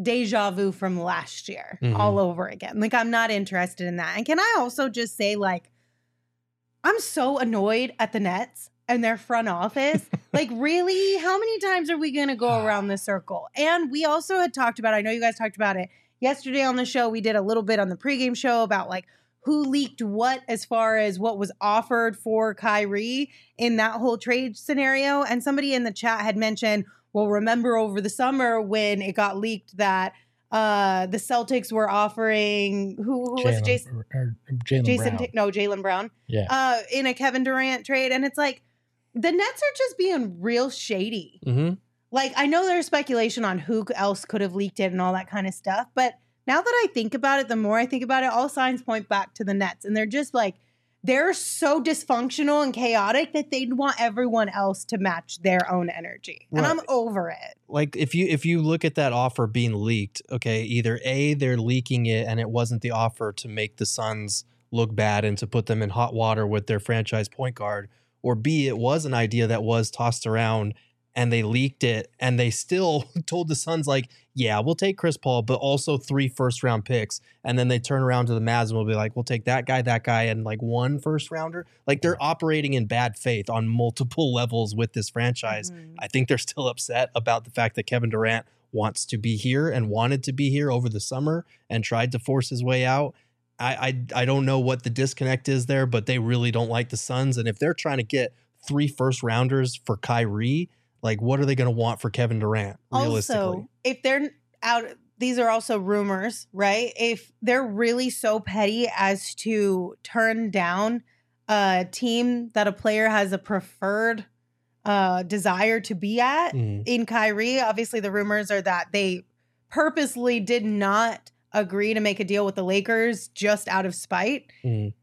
deja vu from last year Mhm. all over again. Like, I'm not interested in that. And can I also just say, like, I'm so annoyed at the Nets and their front office. Like, really? How many times are we going to go around the circle? And we also had talked about, I know you guys talked about it yesterday on the show. We did a little bit on the pregame show about, like, who leaked what as far as what was offered for Kyrie in that whole trade scenario. And somebody in the chat had mentioned, well, remember over the summer when it got leaked that uh, the Celtics were offering, who, who was it? Jason? Jaylen Jason, Brown. no, Jaylen Brown. Yeah. Uh, in a Kevin Durant trade. And it's like, the Nets are just being real shady. Mm-hmm. Like, I know there's speculation on who else could have leaked it and all that kind of stuff, but now that I think about it, the more I think about it, all signs point back to the Nets. And they're just like, they're so dysfunctional and chaotic that they'd want everyone else to match their own energy. And Right. I'm over it. Like if you if you look at that offer being leaked, okay, either A, they're leaking it and it wasn't the offer to make the Suns look bad and to put them in hot water with their franchise point guard, or B, it was an idea that was tossed around and they leaked it and they still told the Suns, like, yeah, we'll take Chris Paul, but also three first round picks. And then they turn around to the Mavs and will be like, we'll take that guy, that guy, and like one first rounder. Like they're operating in bad faith on multiple levels with this franchise. Mhm. I think they're still upset about the fact that Kevin Durant wants to be here and wanted to be here over the summer and tried to force his way out. I, I I don't know what the disconnect is there, but they really don't like the Suns. And if they're trying to get three first rounders for Kyrie, like what are they going to want for Kevin Durant realistically? Also, if they're out, these are also rumors, right? If they're really so petty as to turn down a team that a player has a preferred uh, desire to be at Mhm. in Kyrie, obviously the rumors are that they purposely did not agree to make a deal with the Lakers just out of spite. Mhm.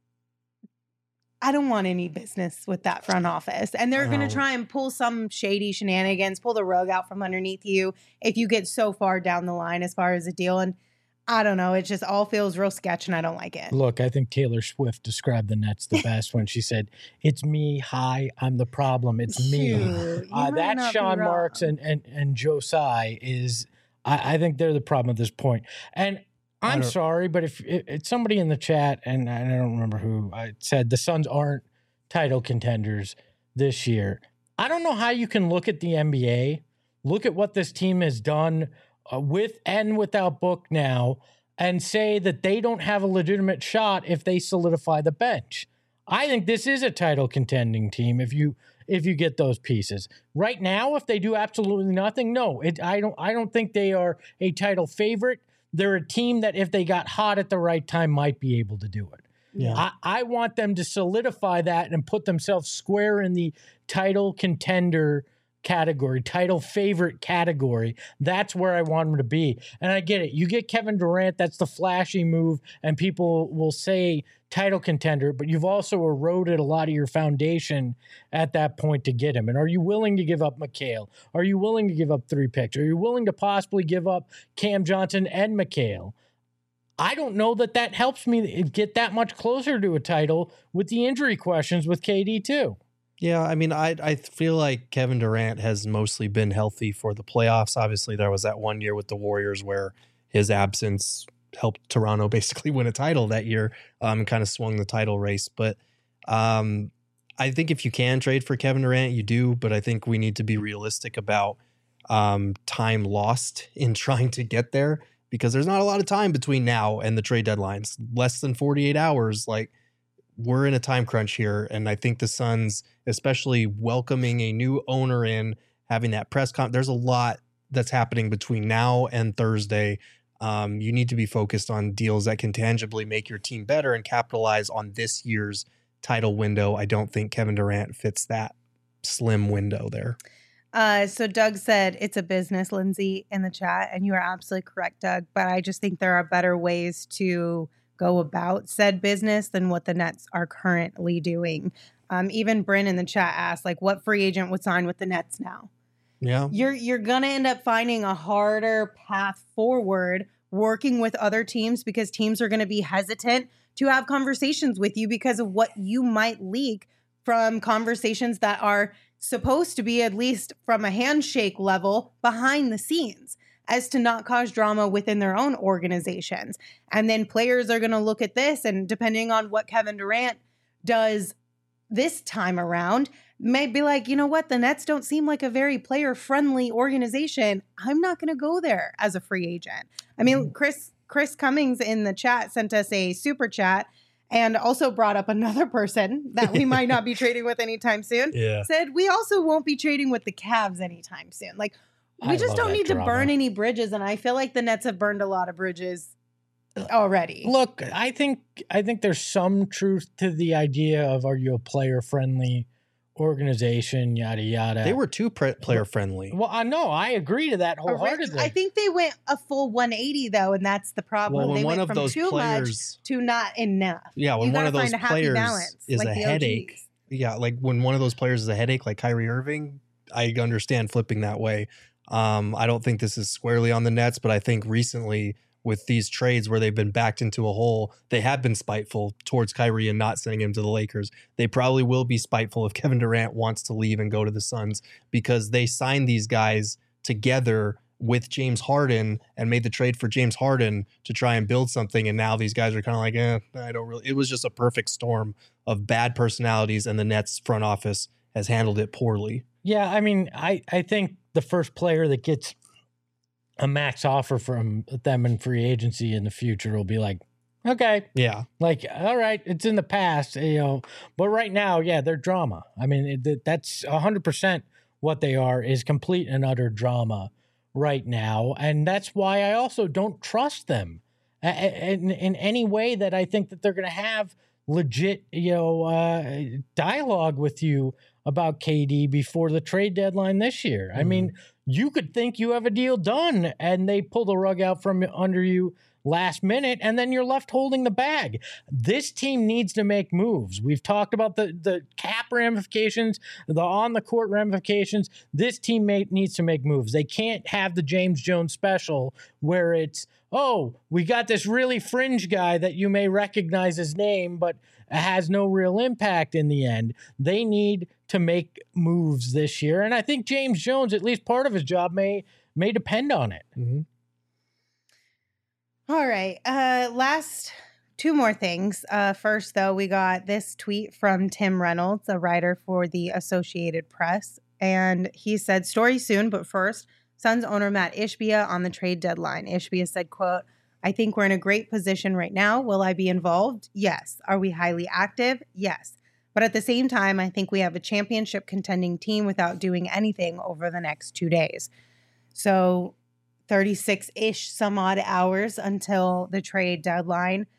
I don't want any business with that front office. And they're going to Oh. try and pull some shady shenanigans, pull the rug out from underneath you if you get so far down the line as far as a deal. And I don't know. It just all feels real sketch and I don't like it. Look, I think Taylor Swift described the Nets the best when she said, "It's me. Hi, I'm the problem. It's me." Shoot, you Uh, might that not be Sean wrong. Marks and and and Joe Tsai is, I, I think they're the problem at this point. And I I'm don't- sorry, but if it, it's somebody in the chat, and I don't remember who, I said the Suns aren't title contenders this year. I don't know how you can look at the N B A, look at what this team has done uh, with and without Book now, and say that they don't have a legitimate shot if they solidify the bench. I think this is a title contending team if you if you get those pieces. Right now, if they do absolutely nothing, no, it, I don't I don't think they are a title favorite. They're a team that if they got hot at the right time might be able to do it. Yeah. I, I want them to solidify that and put themselves square in the title contender category, title favorite category. That's where I want them to be. And I get it. You get Kevin Durant, that's the flashy move, and people will say title contender, but you've also eroded a lot of your foundation at that point to get him. And are you willing to give up McHale? Are you willing to give up three picks? Are you willing to possibly give up Cam Johnson and McHale? I don't know that that helps me get that much closer to a title with the injury questions with K D too. Yeah, I mean, I I feel like Kevin Durant has mostly been healthy for the playoffs. Obviously, there was that one year with the Warriors where his absence helped Toronto basically win a title that year, um, and kind of swung the title race. But um, I think if you can trade for Kevin Durant, you do. But I think we need to be realistic about um, time lost in trying to get there, because there's not a lot of time between now and the trade deadlines. Less than forty-eight hours. Like, we're in a time crunch here. And I think the Suns, especially welcoming a new owner in, having that press con, there's a lot that's happening between now and Thursday. Um, you need to be focused on deals that can tangibly make your team better and capitalize on this year's title window. I don't think Kevin Durant fits that slim window there. Uh, so Doug said it's a business, Lindsay, in the chat, and you are absolutely correct, Doug. But I just think there are better ways to go about said business than what the Nets are currently doing. Um, even Bryn in the chat asked, like, what free agent would sign with the Nets now? Yeah. You're you're gonna end up finding a harder path forward working with other teams, because teams are going to be hesitant to have conversations with you because of what you might leak from conversations that are supposed to be, at least from a handshake level, behind the scenes. as to not cause drama within their own organizations. And then players are going to look at this, and depending on what Kevin Durant does this time around, may be like, you know what? The Nets don't seem like a very player-friendly organization. I'm not going to go there as a free agent. I mean, Chris Chris Cummings in the chat sent us a super chat and also brought up another person that we might not be trading with anytime soon. Yeah. Said, we also won't be trading with the Cavs anytime soon. Like, we I just love don't that need drama. to burn any bridges. And I feel like the Nets have burned a lot of bridges already. Look, I think I think there's some truth to the idea of, are you a player-friendly organization, yada, yada. They were too pre- player friendly. Well, I know. I agree to that wholeheartedly. I think they went a full one eighty though, and that's the problem. Well, when they one went of from those too players, much to not enough. Yeah, when You one gotta of those find a happy players balance, is like a the headache. O Gs. Yeah, like when one of those players is a headache, like Kyrie Irving, I understand flipping that way. Um, I don't think this is squarely on the Nets, but I think recently with these trades where they've been backed into a hole, they have been spiteful towards Kyrie and not sending him to the Lakers. They probably will be spiteful if Kevin Durant wants to leave and go to the Suns, because they signed these guys together with James Harden and made the trade for James Harden to try and build something. And now these guys are kind of like, eh, I don't really. It was just a perfect storm of bad personalities, and the Nets front office has handled it poorly. Yeah, I mean, I, I think the first player that gets a max offer from them in free agency in the future will be like, okay, Yeah. like, all right, it's in the past, you know, but right now, yeah, they're drama. I mean, it, that's one hundred percent what they are, is complete and utter drama right now. And that's why I also don't trust them in, in any way that I think that they're going to have legit, you know, uh, dialogue with you about K D before the trade deadline this year. Mm-hmm. I mean, you could think you have a deal done and they pull the rug out from under you last minute, and then you're left holding the bag. This team needs to make moves. We've talked about the, the cap ramifications, the on-the-court ramifications. This teammate needs to make moves. They can't have the James Jones special where it's, oh, we got this really fringe guy that you may recognize his name, but has no real impact in the end. They need to make moves this year, and I think James Jones, at least part of his job, may may depend on it. Mm-hmm. All right. Uh, last two more things. Uh, first, though, we got this tweet from Tim Reynolds, a writer for the Associated Press. And he said, story soon, but first, Suns owner Matt Ishbia on the trade deadline. Ishbia said, quote, I think we're in a great position right now. Will I be involved? Yes. Are we highly active? Yes. But at the same time, I think we have a championship contending team without doing anything over the next two days. So thirty-six-ish some odd hours until the trade deadline.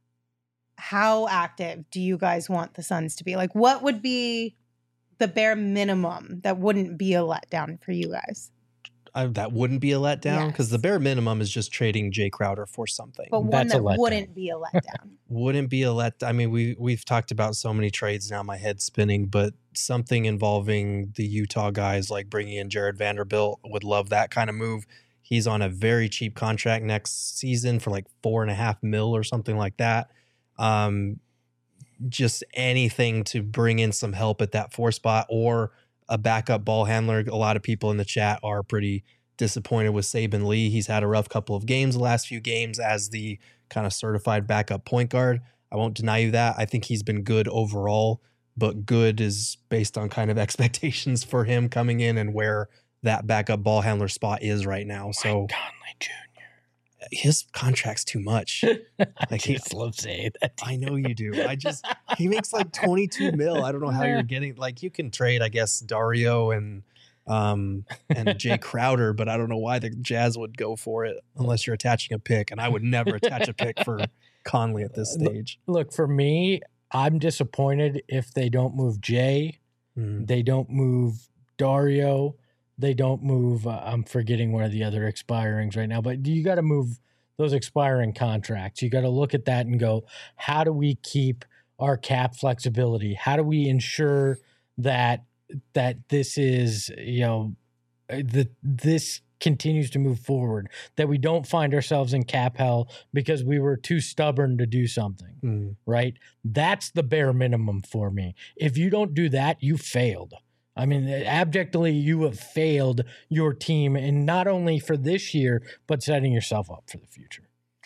How active do you guys want the Suns to be? Like, what would be the bare minimum that wouldn't be a letdown for you guys? I, that wouldn't be a letdown, because Yes. the bare minimum is just trading Jay Crowder for something. But one That's a that letdown. wouldn't be a letdown. Wouldn't be a let. I mean, we we've talked about so many trades now. My head's spinning, but something involving the Utah guys, like bringing in Jared Vanderbilt, would love that kind of move. He's on a very cheap contract next season for like four and a half mil or something like that. Um, just anything to bring in some help at that four spot, or a backup ball handler. A lot of people in the chat are pretty disappointed with Saban Lee. He's had a rough couple of games, the last few games, as the kind of certified backup point guard. I won't deny you that. I think he's been good overall, but good is based on kind of expectations for him coming in and where that backup ball handler spot is right now. So Mike Conley Junior his contract's too much. I Like he- just love saying that. I know you do. I just, he makes like twenty-two mil. I don't know how you're getting, like, you can trade, I guess, Dario and um and Jay Crowder, but I don't know why the Jazz would go for it unless you're attaching a pick. And I would never attach a pick for Conley at this stage. Look, for me, I'm disappointed if they don't move Jay, Mhm. they don't move Dario, they don't move, uh, I'm forgetting one of the other expirings right now, but you got to move those expiring contracts. You got to look at that and go, how do we keep our cap flexibility? How do we ensure that that this is, you know, that this continues to move forward, that we don't find ourselves in cap hell because we were too stubborn to do something, Mhm. right? That's the bare minimum for me. If you don't do that, you failed. I mean, abjectly, you have failed your team, and not only for this year, but setting yourself up for the future.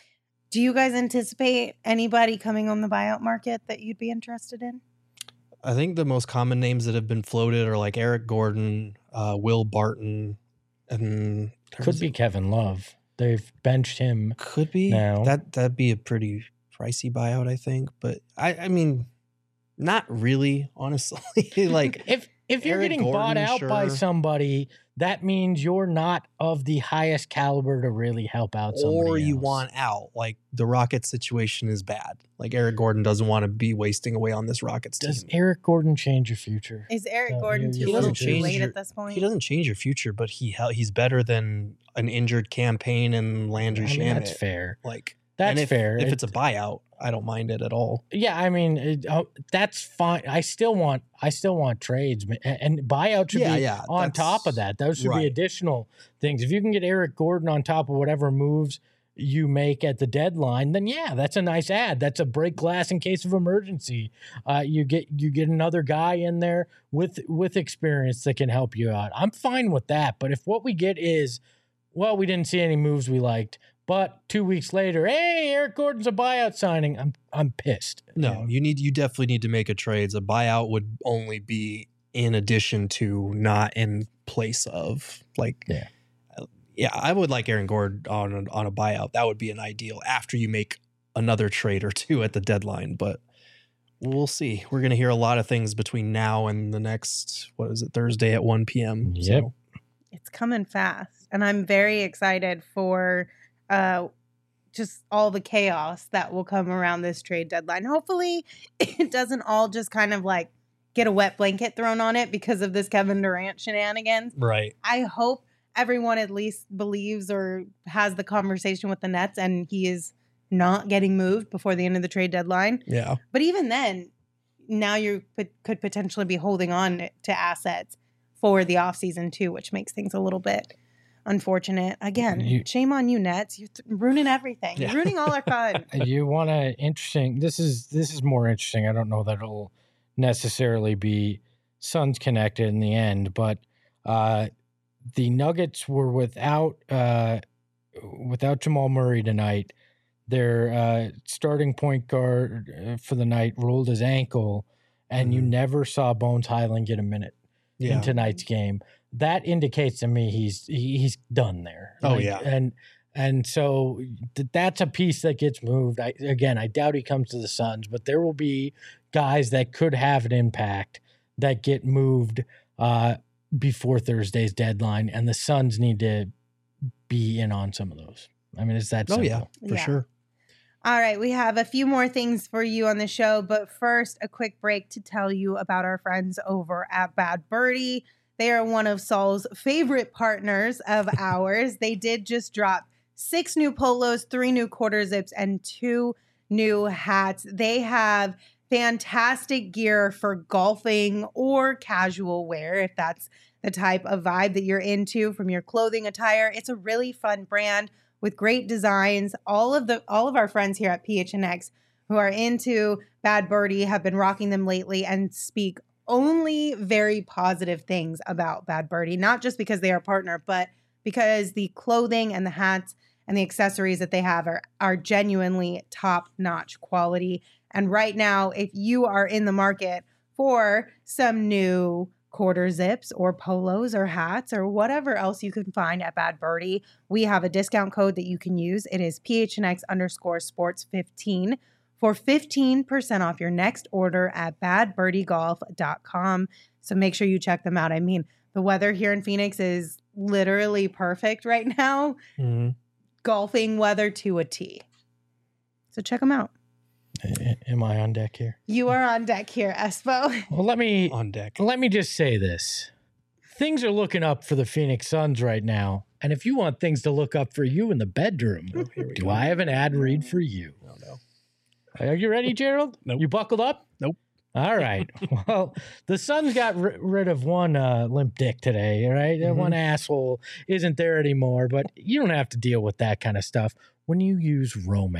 Do you guys anticipate anybody coming on the buyout market that you'd be interested in? I think the most common names that have been floated are like Eric Gordon, uh, Will Barton, and could be Kevin Love. They've benched him. Could be now. That that'd be a pretty pricey buyout, I think. But I, I mean, not really, honestly. Like if if you're Eric getting Gordon, bought out sure. by somebody, that means you're not of the highest caliber to really help out somebody or you else. want out. Like the Rockets situation is bad. Like Eric Gordon doesn't want to be wasting away on this Rockets Does team. Eric Gordon change your future? Is Eric No, Gordon he too doesn't little too change late your- at this point? He doesn't change your future, but he hel- he's better than an injured campaign and Landry I mean, Shamet. that's fair. Like That's and if, fair. If It- it's a buyout, I don't mind it at all. Yeah, I mean it, uh, that's fine. I still want I still want trades, ma- and, and buyout should Yeah, be yeah, on that's- top of that. Those should right. be additional things. If you can get Eric Gordon on top of whatever moves you make at the deadline, then yeah, that's a nice ad. That's a break glass in case of emergency. Uh, you get you get another guy in there with with experience that can help you out. I'm fine with that. But if what we get is, well, we didn't see any moves we liked, but two weeks later, hey, Eric Gordon's a buyout signing, I'm I'm pissed. No, you need you definitely need to make a trade. A buyout would only be in addition to, not in place of. Like, Yeah. yeah, I would like Aaron Gordon on a, on a buyout. That would be an ideal after you make another trade or two at the deadline. But we'll see. We're going to hear a lot of things between now and the next, what is it, Thursday at one p.m. Yep. So, It's coming fast, and I'm very excited for uh, just all the chaos that will come around this trade deadline. Hopefully, it doesn't all just kind of like get a wet blanket thrown on it because of this Kevin Durant shenanigans. right. I hope everyone at least believes or has the conversation with the Nets, and he is not getting moved before the end of the trade deadline. Yeah. But even then, now you could potentially be holding on to assets for the offseason too, which makes things a little bit unfortunate. Again, You- shame on you, Nets. You're th- ruining everything. Yeah. You're ruining all our fun. You want to interesting. This is this is more interesting. I don't know that it'll necessarily be Suns connected in the end, but uh, the Nuggets were without uh, without Jamal Murray tonight. Their uh, starting point guard uh, for the night rolled his ankle, and you Mhm. never saw Bones Highland get a minute Yeah. in tonight's game. That indicates to me he's he, he's done there. Oh, yeah. and and so th- that's a piece that gets moved. I, again, I doubt he comes to the Suns, but there will be guys that could have an impact that get moved uh, before Thursday's deadline, and the Suns need to be in on some of those. I mean, it's that Oh, simple. yeah, for Yeah. sure. All right, we have a few more things for you on the show, but first, a quick break to tell you about our friends over at Bad Birdie. They are one of Saul's favorite partners of ours. They did just drop six new polos, three new quarter zips, and two new hats. They have fantastic gear for golfing or casual wear, if that's the type of vibe that you're into from your clothing attire. It's a really fun brand with great designs. All of the all of our friends here at P H N X who are into Bad Birdie have been rocking them lately and speak only very positive things about Bad Birdie, not just because they are a partner, but because the clothing and the hats and the accessories that they have are, are genuinely top-notch quality. And right now, if you are in the market for some new quarter zips or polos or hats or whatever else you can find at Bad Birdie, we have a discount code that you can use. It is P H N X underscore sports fifteen for fifteen percent off your next order at bad birdie golf dot com. So make sure you check them out. I mean, the weather here in Phoenix is literally perfect right now. Mhm. Golfing weather to a T. So check them out. A- Am I on deck here? You are on deck here, Espo. Well, let me On deck. Let me just say this. Things are looking up for the Phoenix Suns right now. And if you want things to look up for you in the bedroom, Oh, here we do go. I have an ad read for you? Oh, no. Are you ready, Gerald? Nope. You buckled up? Nope. All right. Well, the Suns got ri- rid of one uh, limp dick today, right? That Mhm. One asshole isn't there anymore, but you don't have to deal with that kind of stuff when you use Roman.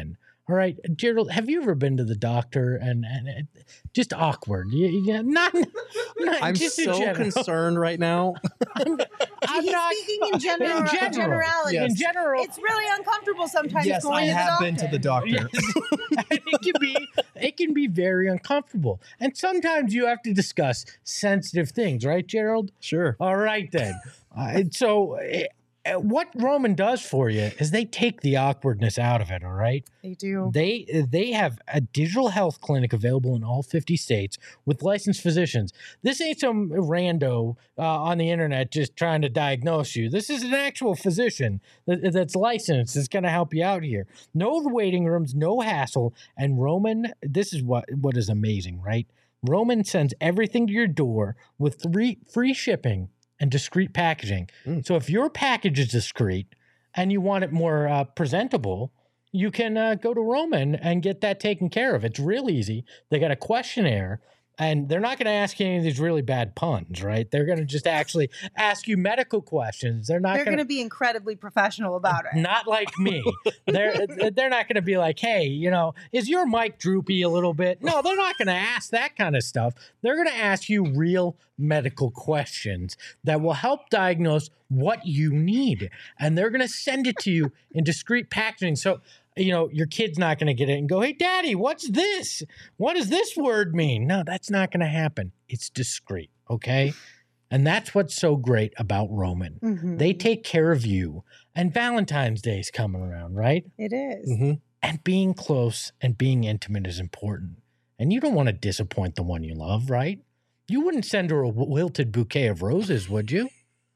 All right, Gerald, have you ever been to the doctor and, and it, just awkward? You, you, not, not I'm just so concerned right now. I'm, I'm He's not, speaking in general, in general generality. Yes. In general, it's really uncomfortable sometimes. Yes, going I to have the been to the doctor. Yes. it can be it can be very uncomfortable, and sometimes you have to discuss sensitive things, right, Gerald? Sure. All right then. Uh, so. Uh, What Roman does for you is they take the awkwardness out of it, all right? They do. They they have a digital health clinic available in all fifty states with licensed physicians. This ain't some rando uh, on the internet just trying to diagnose you. This is an actual physician that, that's licensed. That's going to help you out here. No waiting rooms, no hassle. And Roman, this is what what is amazing, right? Roman sends everything to your door with three free shipping and discreet packaging. Mm. So if your package is discreet and you want it more uh, presentable, you can uh, go to Roman and get that taken care of. It's real easy. They got a questionnaire, and they're not going to ask you any of these really bad puns, right? They're going to just actually ask you medical questions. They're not. They're going to be incredibly professional about it. Not like me. they're they're not going to be like, hey, you know, is your mic droopy a little bit? No, they're not going to ask that kind of stuff. They're going to ask you real medical questions that will help diagnose what you need, and they're going to send it to you in discreet packaging. So, you know, your kid's not going to get it and go, hey, Daddy, what's this? What does this word mean? No, that's not going to happen. It's discreet, okay? And that's what's so great about Roman. Mm-hmm. They take care of you, and Valentine's Day is coming around, right? It is. Mm-hmm. And being close and being intimate is important. And you don't want to disappoint the one you love, right? You wouldn't send her a wilted bouquet of roses, would you?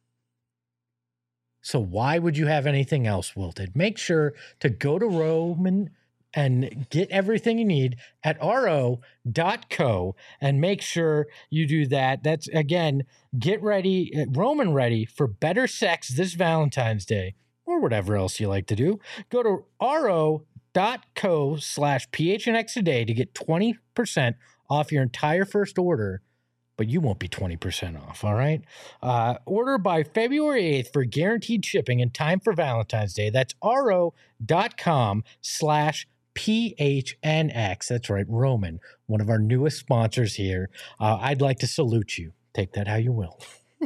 So why would you have anything else wilted? Make sure to go to Roman and get everything you need at R O dot co and make sure you do that. That's, again, get ready, Roman ready for better sex this Valentine's Day or whatever else you like to do. Go to R O dot co slash P H N X today to get twenty percent off your entire first order. But you won't be twenty percent off, all right? Uh, order by February eighth for guaranteed shipping in time for Valentine's Day. That's R O dot com slash P H N X. That's right, Roman, one of our newest sponsors here. Uh, I'd like to salute you. Take that how you will.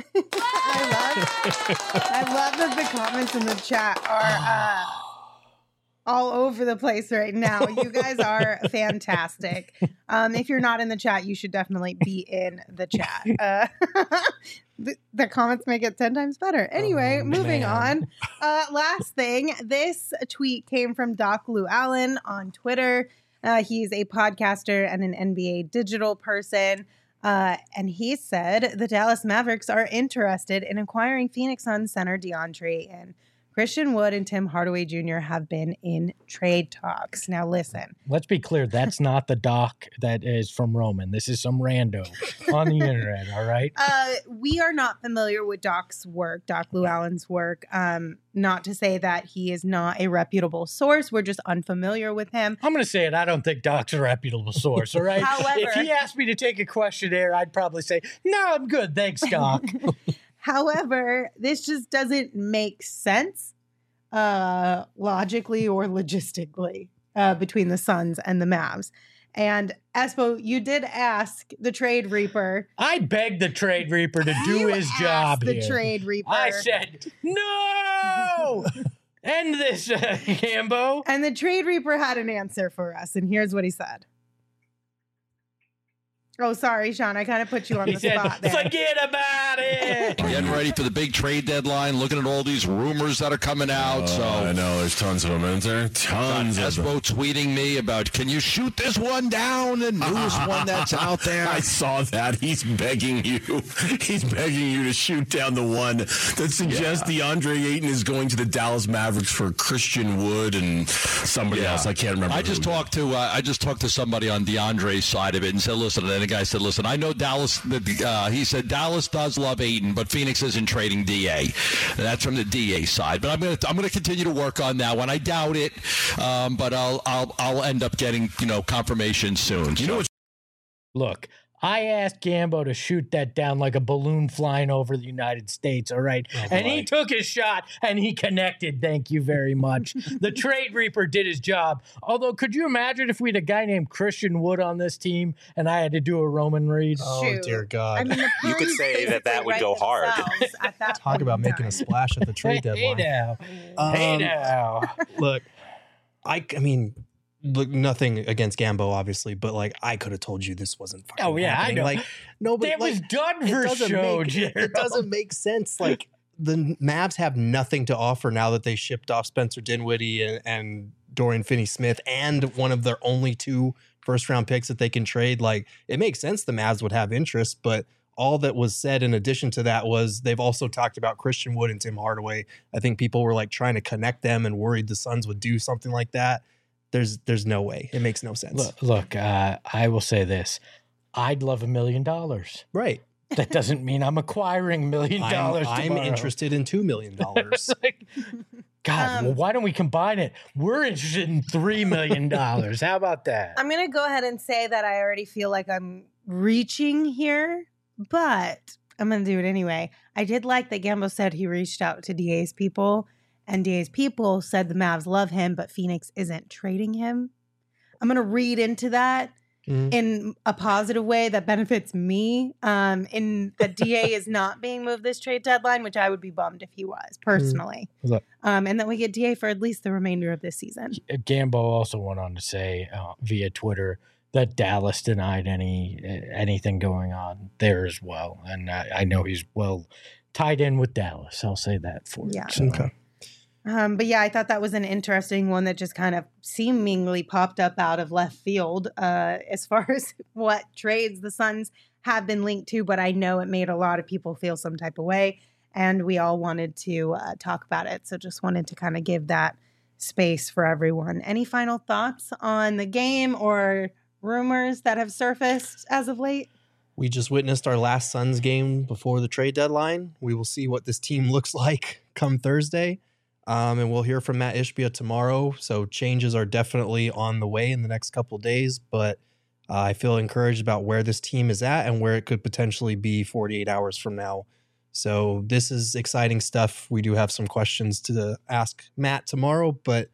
I love, I love that the comments in the chat are uh, all over the place right now. You guys are fantastic. Um, if you're not in the chat, you should definitely be in the chat. Uh, the, the comments make it ten times better. Anyway, oh, moving man. on. Uh, last thing, this tweet came from Doc Lou Allen on Twitter. Uh, he's a podcaster and an N B A digital person. Uh, and he said the Dallas Mavericks are interested in acquiring Phoenix Suns center DeAndre and Christian Wood and Tim Hardaway Junior have been in trade talks. Now, listen. Let's be clear. That's not the doc that is from Roman. This is some rando on the internet, all right? Uh, we are not familiar with Doc's work, Doc Lou Allen's work. Um, not to say that he is not a reputable source. We're just unfamiliar with him. I'm going to say it. I don't think Doc's a reputable source, all right? However, if he asked me to take a questionnaire, I'd probably say, no, I'm good. Thanks, Doc. However, this just doesn't make sense uh, logically or logistically uh, between the Suns and the Mavs. And Espo, you did ask the Trade Reaper. I begged the Trade Reaper to do you his job the here. The Trade Reaper. I said, no! End this, uh, Cambo. And the Trade Reaper had an answer for us. And here's what he said. Oh, sorry, Sean. I kind of put you on he the said, spot there. Forget about it. Getting ready for the big trade deadline, looking at all these rumors that are coming out. Uh, so I know there's tons of them, isn't there? Tons of them. Espo tweeting me about, can you shoot this one down? The newest one that's out there. I saw that. He's begging you. He's begging you to shoot down the one that suggests yeah. DeAndre Ayton is going to the Dallas Mavericks for Christian Wood and somebody yeah. else. I can't remember. I just who. talked to uh, I just talked to somebody on DeAndre's side of it and said, listen, and then the guy said, listen, I know Dallas. Uh, he said Dallas does love Ayton, but Phoenix isn't trading D A. That's from the D A side. But I'm gonna I'm gonna continue to work on that one. I doubt it, um, but I'll I'll I'll end up getting you know confirmation soon. You so. know what? Look, I asked Gambo to shoot that down like a balloon flying over the United States, all right? Oh, and boy. he took his shot, and he connected. Thank you very much. The Trade Reaper did his job. Although, could you imagine if we had a guy named Christian Wood on this team, and I had to do a Roman read? Oh, Shoot. dear God. I mean, the You could Pros say that that basically would write go hard. themselves at that Talk point about in making a time. splash at the trade Hey deadline. now. Um, Hey now. Look, I, I mean, look, nothing against Gambo, obviously, but like I could have told you this wasn't fucking Oh, yeah, I happening. know. Like nobody, That like, was done it for doesn't show, make, Gerald. it doesn't make sense. Like the Mavs have nothing to offer now that they shipped off Spencer Dinwiddie and, and Dorian Finney-Smith and one of their only two first round picks that they can trade. Like it makes sense the Mavs would have interest, but all that was said in addition to that was they've also talked about Christian Wood and Tim Hardaway. I think people were like trying to connect them and worried the Suns would do something like that. There's there's no way. It makes no sense. Look, look uh, I will say this. I'd love a million dollars. Right. That doesn't mean I'm acquiring a million I'm, dollars I'm tomorrow. interested in two million dollars. Like, God, Um, well, why don't we combine it? We're interested in three million dollars. How about that? I'm going to go ahead and say that I already feel like I'm reaching here, but I'm going to do it anyway. I did like that Gambo said he reached out to D A's people, and D A's people said the Mavs love him, but Phoenix isn't trading him. I'm going to read into that Mhm. in a positive way that benefits me, um, in that D A is not being moved this trade deadline, which I would be bummed if he was, personally. Look. Um, and that we get D A for at least the remainder of this season. Gambo also went on to say uh, via Twitter that Dallas denied any anything going on there as well, and I, I know he's well tied in with Dallas. I'll say that for Yeah. you. So, Okay. Um, but yeah, I thought that was an interesting one that just kind of seemingly popped up out of left field uh, as far as what trades the Suns have been linked to. But I know it made a lot of people feel some type of way, and we all wanted to uh, talk about it. So just wanted to kind of give that space for everyone. Any final thoughts on the game or rumors that have surfaced as of late? We just witnessed our last Suns game before the trade deadline. We will see what this team looks like come Thursday. Um, and we'll hear from Matt Ishbia tomorrow. So changes are definitely on the way in the next couple of days. But uh, I feel encouraged about where this team is at and where it could potentially be forty-eight hours from now. So this is exciting stuff. We do have some questions to ask Matt tomorrow. But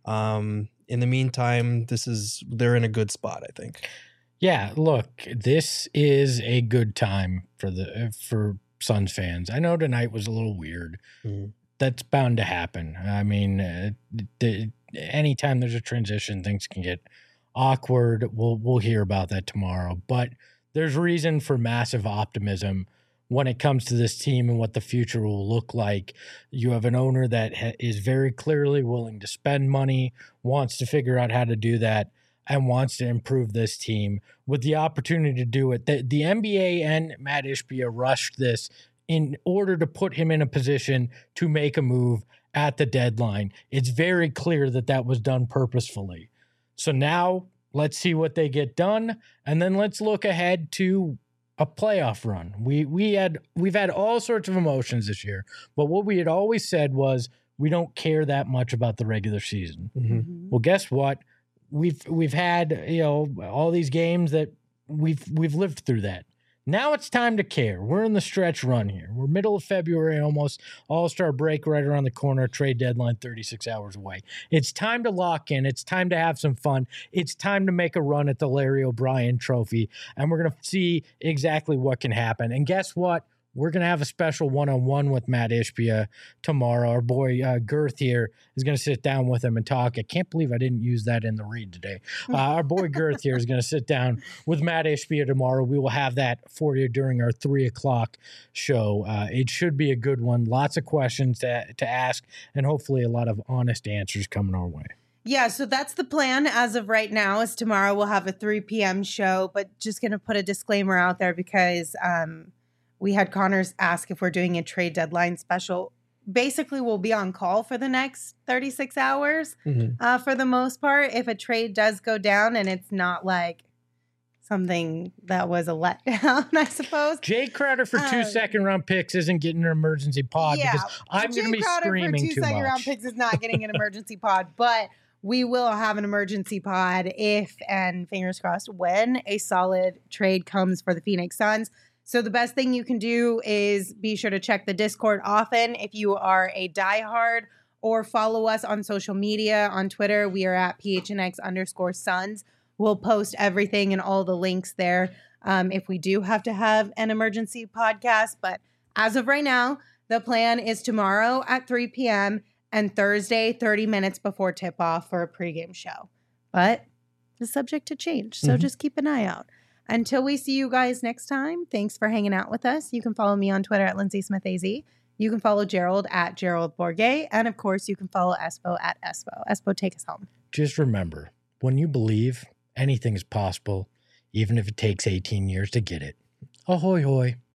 um, in the meantime, this is they're in a good spot, I think. yeah, look, this is a good time for the for Suns fans. I know tonight was a little weird. Mhm. That's bound to happen. I mean, uh, the, anytime there's a transition, things can get awkward. We'll we'll hear about that tomorrow. But there's reason for massive optimism when it comes to this team and what the future will look like. You have an owner that ha- is very clearly willing to spend money, wants to figure out how to do that, and wants to improve this team with the opportunity to do it. The, the N B A and Matt Ishbia rushed this in order to put him in a position to make a move at the deadline. It's very clear that that was done purposefully. So now let's see what they get done, and then let's look ahead to a playoff run. We we had we've had all sorts of emotions this year, but what we had always said was we don't care that much about the regular season. Mm-hmm. Well, guess what? We've we've had, you know, all these games that we've we've lived through that. Now it's time to care. We're in the stretch run here. We're middle of February, almost all-star break right around the corner, trade deadline thirty-six hours away. It's time to lock in. It's time to have some fun. It's time to make a run at the Larry O'Brien Trophy, and we're going to see exactly what can happen. And guess what? We're going to have a special one-on-one with Matt Ishbia tomorrow. Our boy uh, Girth here is going to sit down with him and talk. I can't believe I didn't use that in the read today. Uh, our boy Girth here is going to sit down with Matt Ishbia tomorrow. We will have that for you during our three o'clock show. Uh, it should be a good one. Lots of questions to, to ask, and hopefully a lot of honest answers coming our way. Yeah, so that's the plan as of right now. Is tomorrow we'll have a three p.m. show, but just going to put a disclaimer out there because um, we had Connors ask if we're doing a trade deadline special. Basically, we'll be on call for the next thirty-six hours Mhm. uh, for the most part. If a trade does go down and it's not like something that was a letdown, I suppose. Jay Crowder for two Um, second round picks isn't getting an emergency pod Yeah, because I'm Jay going to be Crowder screaming for two too second much. round picks is not getting an emergency pod, but we will have an emergency pod if, and fingers crossed, when a solid trade comes for the Phoenix Suns. So the best thing you can do is be sure to check the Discord often if you are a diehard, or follow us on social media. On Twitter, we are at P H N X underscore Suns. We'll post everything and all the links there um, if we do have to have an emergency podcast. But as of right now, the plan is tomorrow at three p.m. and Thursday, thirty minutes before tip-off for a pregame show. But it's subject to change, so mm-hmm. just keep an eye out. Until we see you guys next time, thanks for hanging out with us. You can follow me on Twitter at Lindsay Smith A Z. You can follow Gerald at Gerald Bourguet. And, of course, you can follow Espo at Espo. Espo, take us home. Just remember, when you believe, anything is possible, even if it takes eighteen years to get it. Ahoy, hoy.